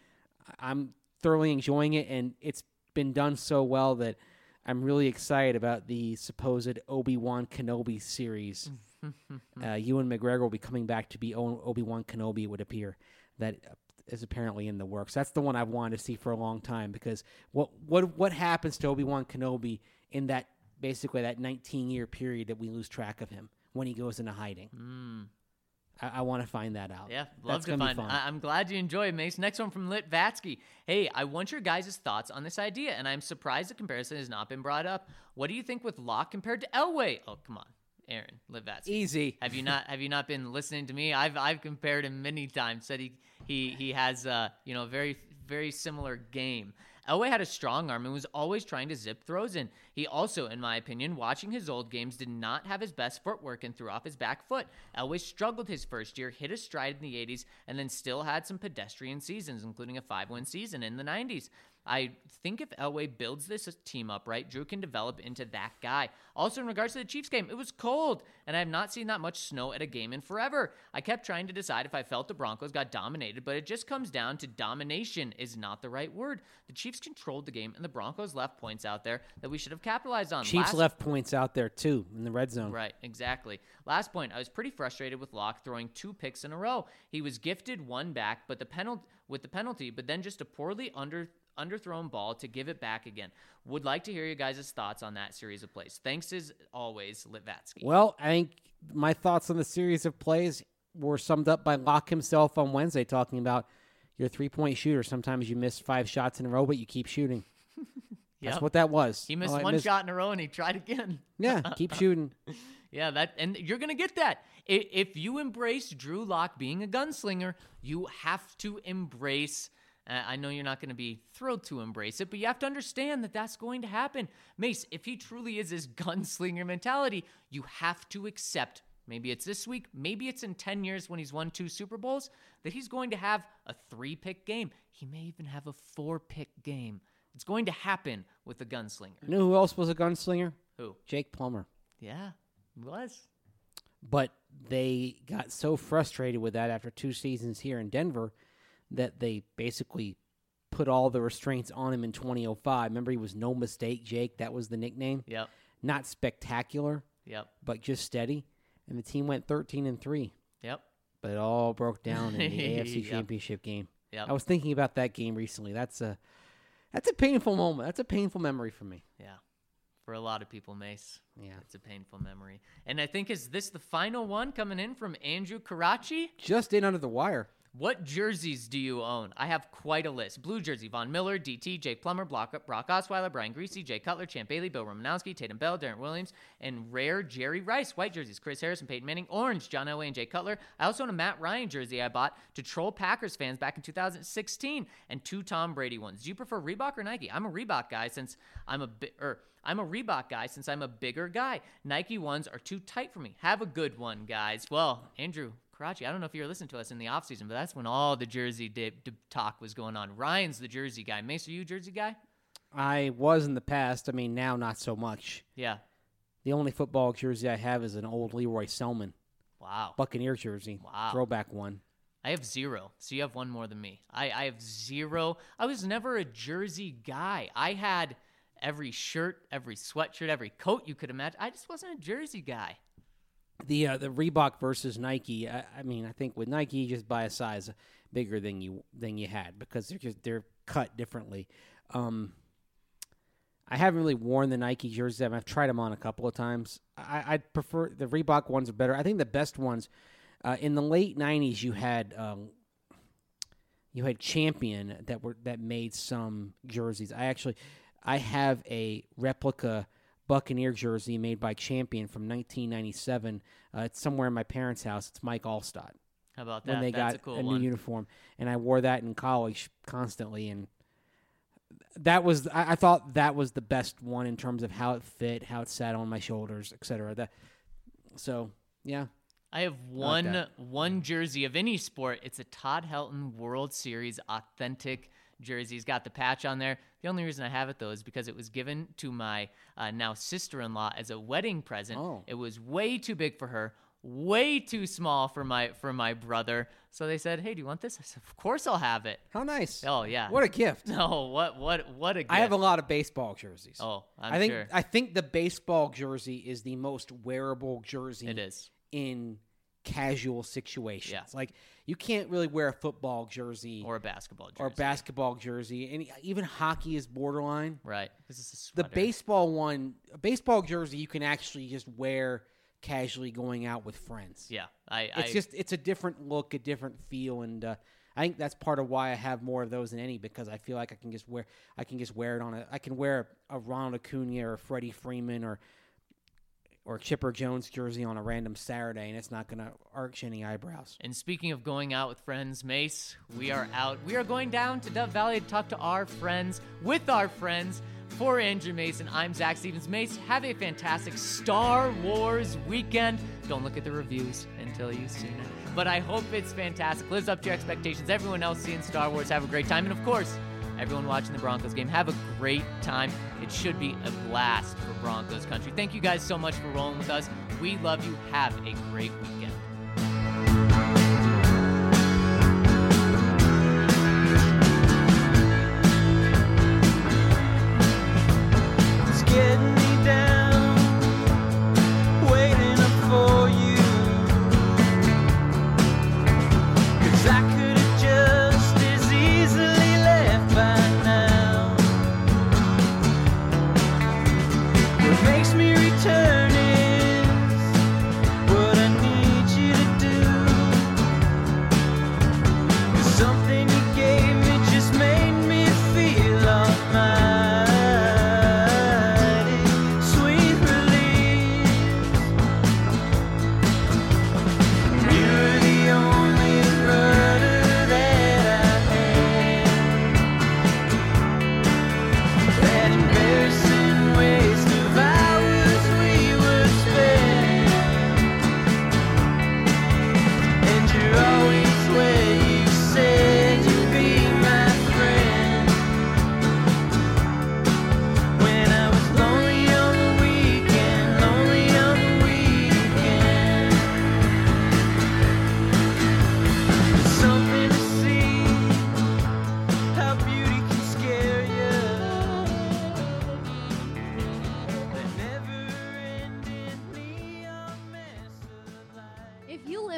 I'm thoroughly enjoying it, and it's been done so well that I'm really excited about the supposed Obi-Wan Kenobi series. uh, Ewan McGregor will be coming back to be o- Obi-Wan Kenobi, it would appear. That is apparently in the works. That's the one I've wanted to see for a long time, because what what what happens to Obi-Wan Kenobi in that basically that nineteen-year period that we lose track of him when he goes into hiding? Mm. I, I want to find that out. Yeah, love That's to gonna find. be fun. I- I'm glad you enjoy it, Mace. Next one from Lit Vatsky. Hey, I want your guys' thoughts on this idea, and I'm surprised the comparison has not been brought up. What do you think with Locke compared to Elway? Oh, come on, Aaron Lit Vatsky. Easy. Have you not have you not been listening to me? I've I've compared him many times. Said he he he has uh you know very very similar game. Elway had a strong arm and was always trying to zip throws in. He also, in my opinion, watching his old games, did not have his best footwork and threw off his back foot. Elway struggled his first year, hit a stride in the eighties, and then still had some pedestrian seasons, including a five-win season in the nineties. I think if Elway builds this team up right, Drew can develop into that guy. Also, in regards to the Chiefs game, it was cold, and I have not seen that much snow at a game in forever. I kept trying to decide if I felt the Broncos got dominated, but it just comes down to domination is not the right word. The Chiefs controlled the game, and the Broncos left points out there that we should have capitalized on. Chiefs Last- left points out there, too, in the red zone. Right, exactly. Last point, I was pretty frustrated with Locke throwing two picks in a row. He was gifted one back, but the penalty with the penalty, but then just a poorly under underthrown ball to give it back again. Would like to hear you guys' thoughts on that series of plays. Thanks as always, Litvatsky. Well, I think my thoughts on the series of plays were summed up by Locke himself on Wednesday, talking about you're a three-point shooter. Sometimes you miss five shots in a row, but you keep shooting. That's Yep. what that was. He missed Oh, I one missed- shot in a row and he tried again. Yeah, keep shooting. Yeah, that and you're gonna get that. I- If you embrace Drew Lock being a gunslinger, you have to embrace. Uh, I know you're not going to be thrilled to embrace it, but you have to understand that that's going to happen. Mace, if he truly is this gunslinger mentality, you have to accept. Maybe it's this week, maybe it's in ten years when he's won two Super Bowls, that he's going to have a three-pick game. He may even have a four-pick game. It's going to happen with the gunslinger. You know who else was a gunslinger? Who? Jake Plummer. Yeah, he was. But they got so frustrated with that after two seasons here in Denver that they basically put all the restraints on him in twenty oh five. Remember, he was No Mistake Jake. That was the nickname. Yep. Not spectacular. Yep. but just steady. And the team went thirteen and three. Yep. But it all broke down in the A F C Yep. Championship game. Yep. I was thinking about that game recently. That's a that's a painful moment. That's a painful memory for me. Yeah. For a lot of people, Mace. Yeah. It's a painful memory. And I think, is this the final one coming in from Andrew Karachi? Just in under the wire. What jerseys do you own? I have quite a list. Blue jersey, Von Miller, D T, Jake Plummer, Brock, Brock Osweiler, Brian Greasy, Jay Cutler, Champ Bailey, Bill Romanowski, Tatum Bell, Darren Williams, and rare Jerry Rice. White jerseys, Chris Harris and Peyton Manning. Orange, John Elway and Jay Cutler. I also own a Matt Ryan jersey I bought to troll Packers fans back in two thousand sixteen, and two Tom Brady ones. Do you prefer Reebok or Nike? I'm a Reebok guy since I'm a bit, or I'm a Reebok guy since I'm a bigger guy. Nike ones are too tight for me. Have a good one, guys. Well, Andrew Karachi, I don't know if you were listening to us in the offseason, but that's when all the jersey dip, dip talk was going on. Ryan's the jersey guy. Mace, are you a jersey guy? I was in the past. I mean, now not so much. Yeah. The only football jersey I have is an old Leroy Selman Wow. Buccaneer jersey. Wow. Throwback one. I have zero, so you have one more than me. I, I have zero. I was never a jersey guy. I had every shirt, every sweatshirt, every coat you could imagine. I just wasn't a jersey guy. The uh, the Reebok versus Nike. I, I mean, I think with Nike, you just buy a size bigger than you than you had because they're just they're cut differently. Um, I haven't really worn the Nike jerseys. I've tried them on a couple of times. I I'd prefer the Reebok ones are better. I think the best ones uh, in the late nineties. You had um, you had Champion that were that made some jerseys. I actually I have a replica Buccaneer jersey made by Champion from nineteen ninety-seven. Uh, it's somewhere in my parents' house. It's Mike Allstott. How about that? When they That's got a cool a new one. uniform, and I wore that in college constantly, and that was I, I thought that was the best one in terms of how it fit, how it sat on my shoulders, et cetera. That so yeah. I have like one that. one jersey of any sport. It's a Todd Helton World Series authentic jersey. He's got the patch on there. The only reason I have it, though, is because it was given to my uh, now sister-in-law as a wedding present. Oh. It was way too big for her, way too small for my for my brother. So they said, "Hey, do you want this?" I said, "Of course I'll have it." How nice. Oh yeah. What a gift. No, what what what a gift. I have a lot of baseball jerseys. Oh, I'm I think sure I think the baseball jersey is the most wearable jersey it is. in casual situations. Yeah. Like you can't really wear a football jersey Or a basketball jersey. or basketball jersey, and even hockey is borderline. Right. This is a The sweater. baseball one, a baseball jersey, you can actually just wear casually going out with friends. Yeah. I. It's I, just it's a different look, a different feel, and uh, I think that's part of why I have more of those than any because I feel like I can just wear I can just wear it on a I can wear a Ronald Acuna or a Freddie Freeman or or Chipper Jones jersey on a random Saturday, and it's not going to arch any eyebrows. And speaking of going out with friends, Mace, we are out. We are going down to Dove Valley to talk to our friends, with our friends. For Andrew Mason, I'm Zach Stevens. Mace, have a fantastic Star Wars weekend. Don't look at the reviews until you've seen it. But I hope it's fantastic. Lives up to your expectations. Everyone else seeing Star Wars, have a great time. And of course, everyone watching the Broncos game, have a great time. It should be a blast for Broncos country. Thank you guys so much for rolling with us. We love you. Have a great weekend. It's getting me down, waiting up for you. 'Cause I could have just as easily left by now. What makes me return is what I need you to do. 'Cause something you gave me just made me feel almighty. Sweet release. You're the only rudder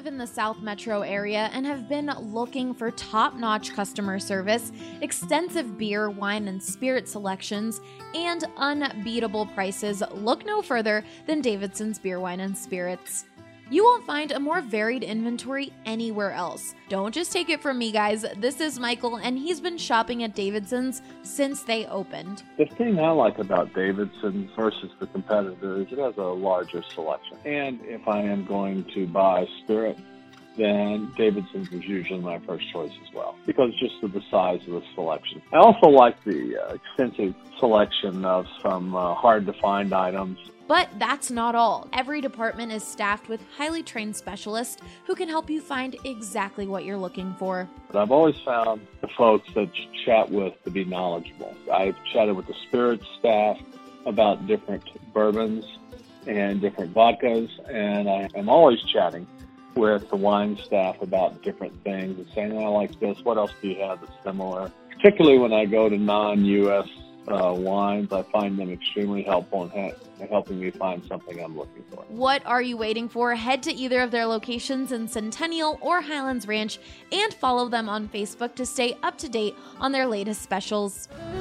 in the South Metro area and have been looking for top-notch customer service, extensive beer, wine, and spirit selections, and unbeatable prices, look no further than Davidson's Beer, Wine, and Spirits. You won't find a more varied inventory anywhere else. Don't just take it from me, guys. This is Michael, and he's been shopping at Davidson's since they opened. The thing I like about Davidson's versus the competitor is it has a larger selection. And if I am going to buy spirit, then Davidson's is usually my first choice as well, because just of the size of the selection. I also like the uh, extensive selection of some uh, hard-to-find items. But that's not all. Every department is staffed with highly trained specialists who can help you find exactly what you're looking for. But I've always found the folks that you chat with to be knowledgeable. I've chatted with the spirits staff about different bourbons and different vodkas, and I am always chatting with the wine staff about different things and saying, I like this, what else do you have that's similar? Particularly when I go to non-U S Uh, wines, I find them extremely helpful in, ha- in helping me find something I'm looking for. What are you waiting for? Head to either of their locations in Centennial or Highlands Ranch and follow them on Facebook to stay up to date on their latest specials.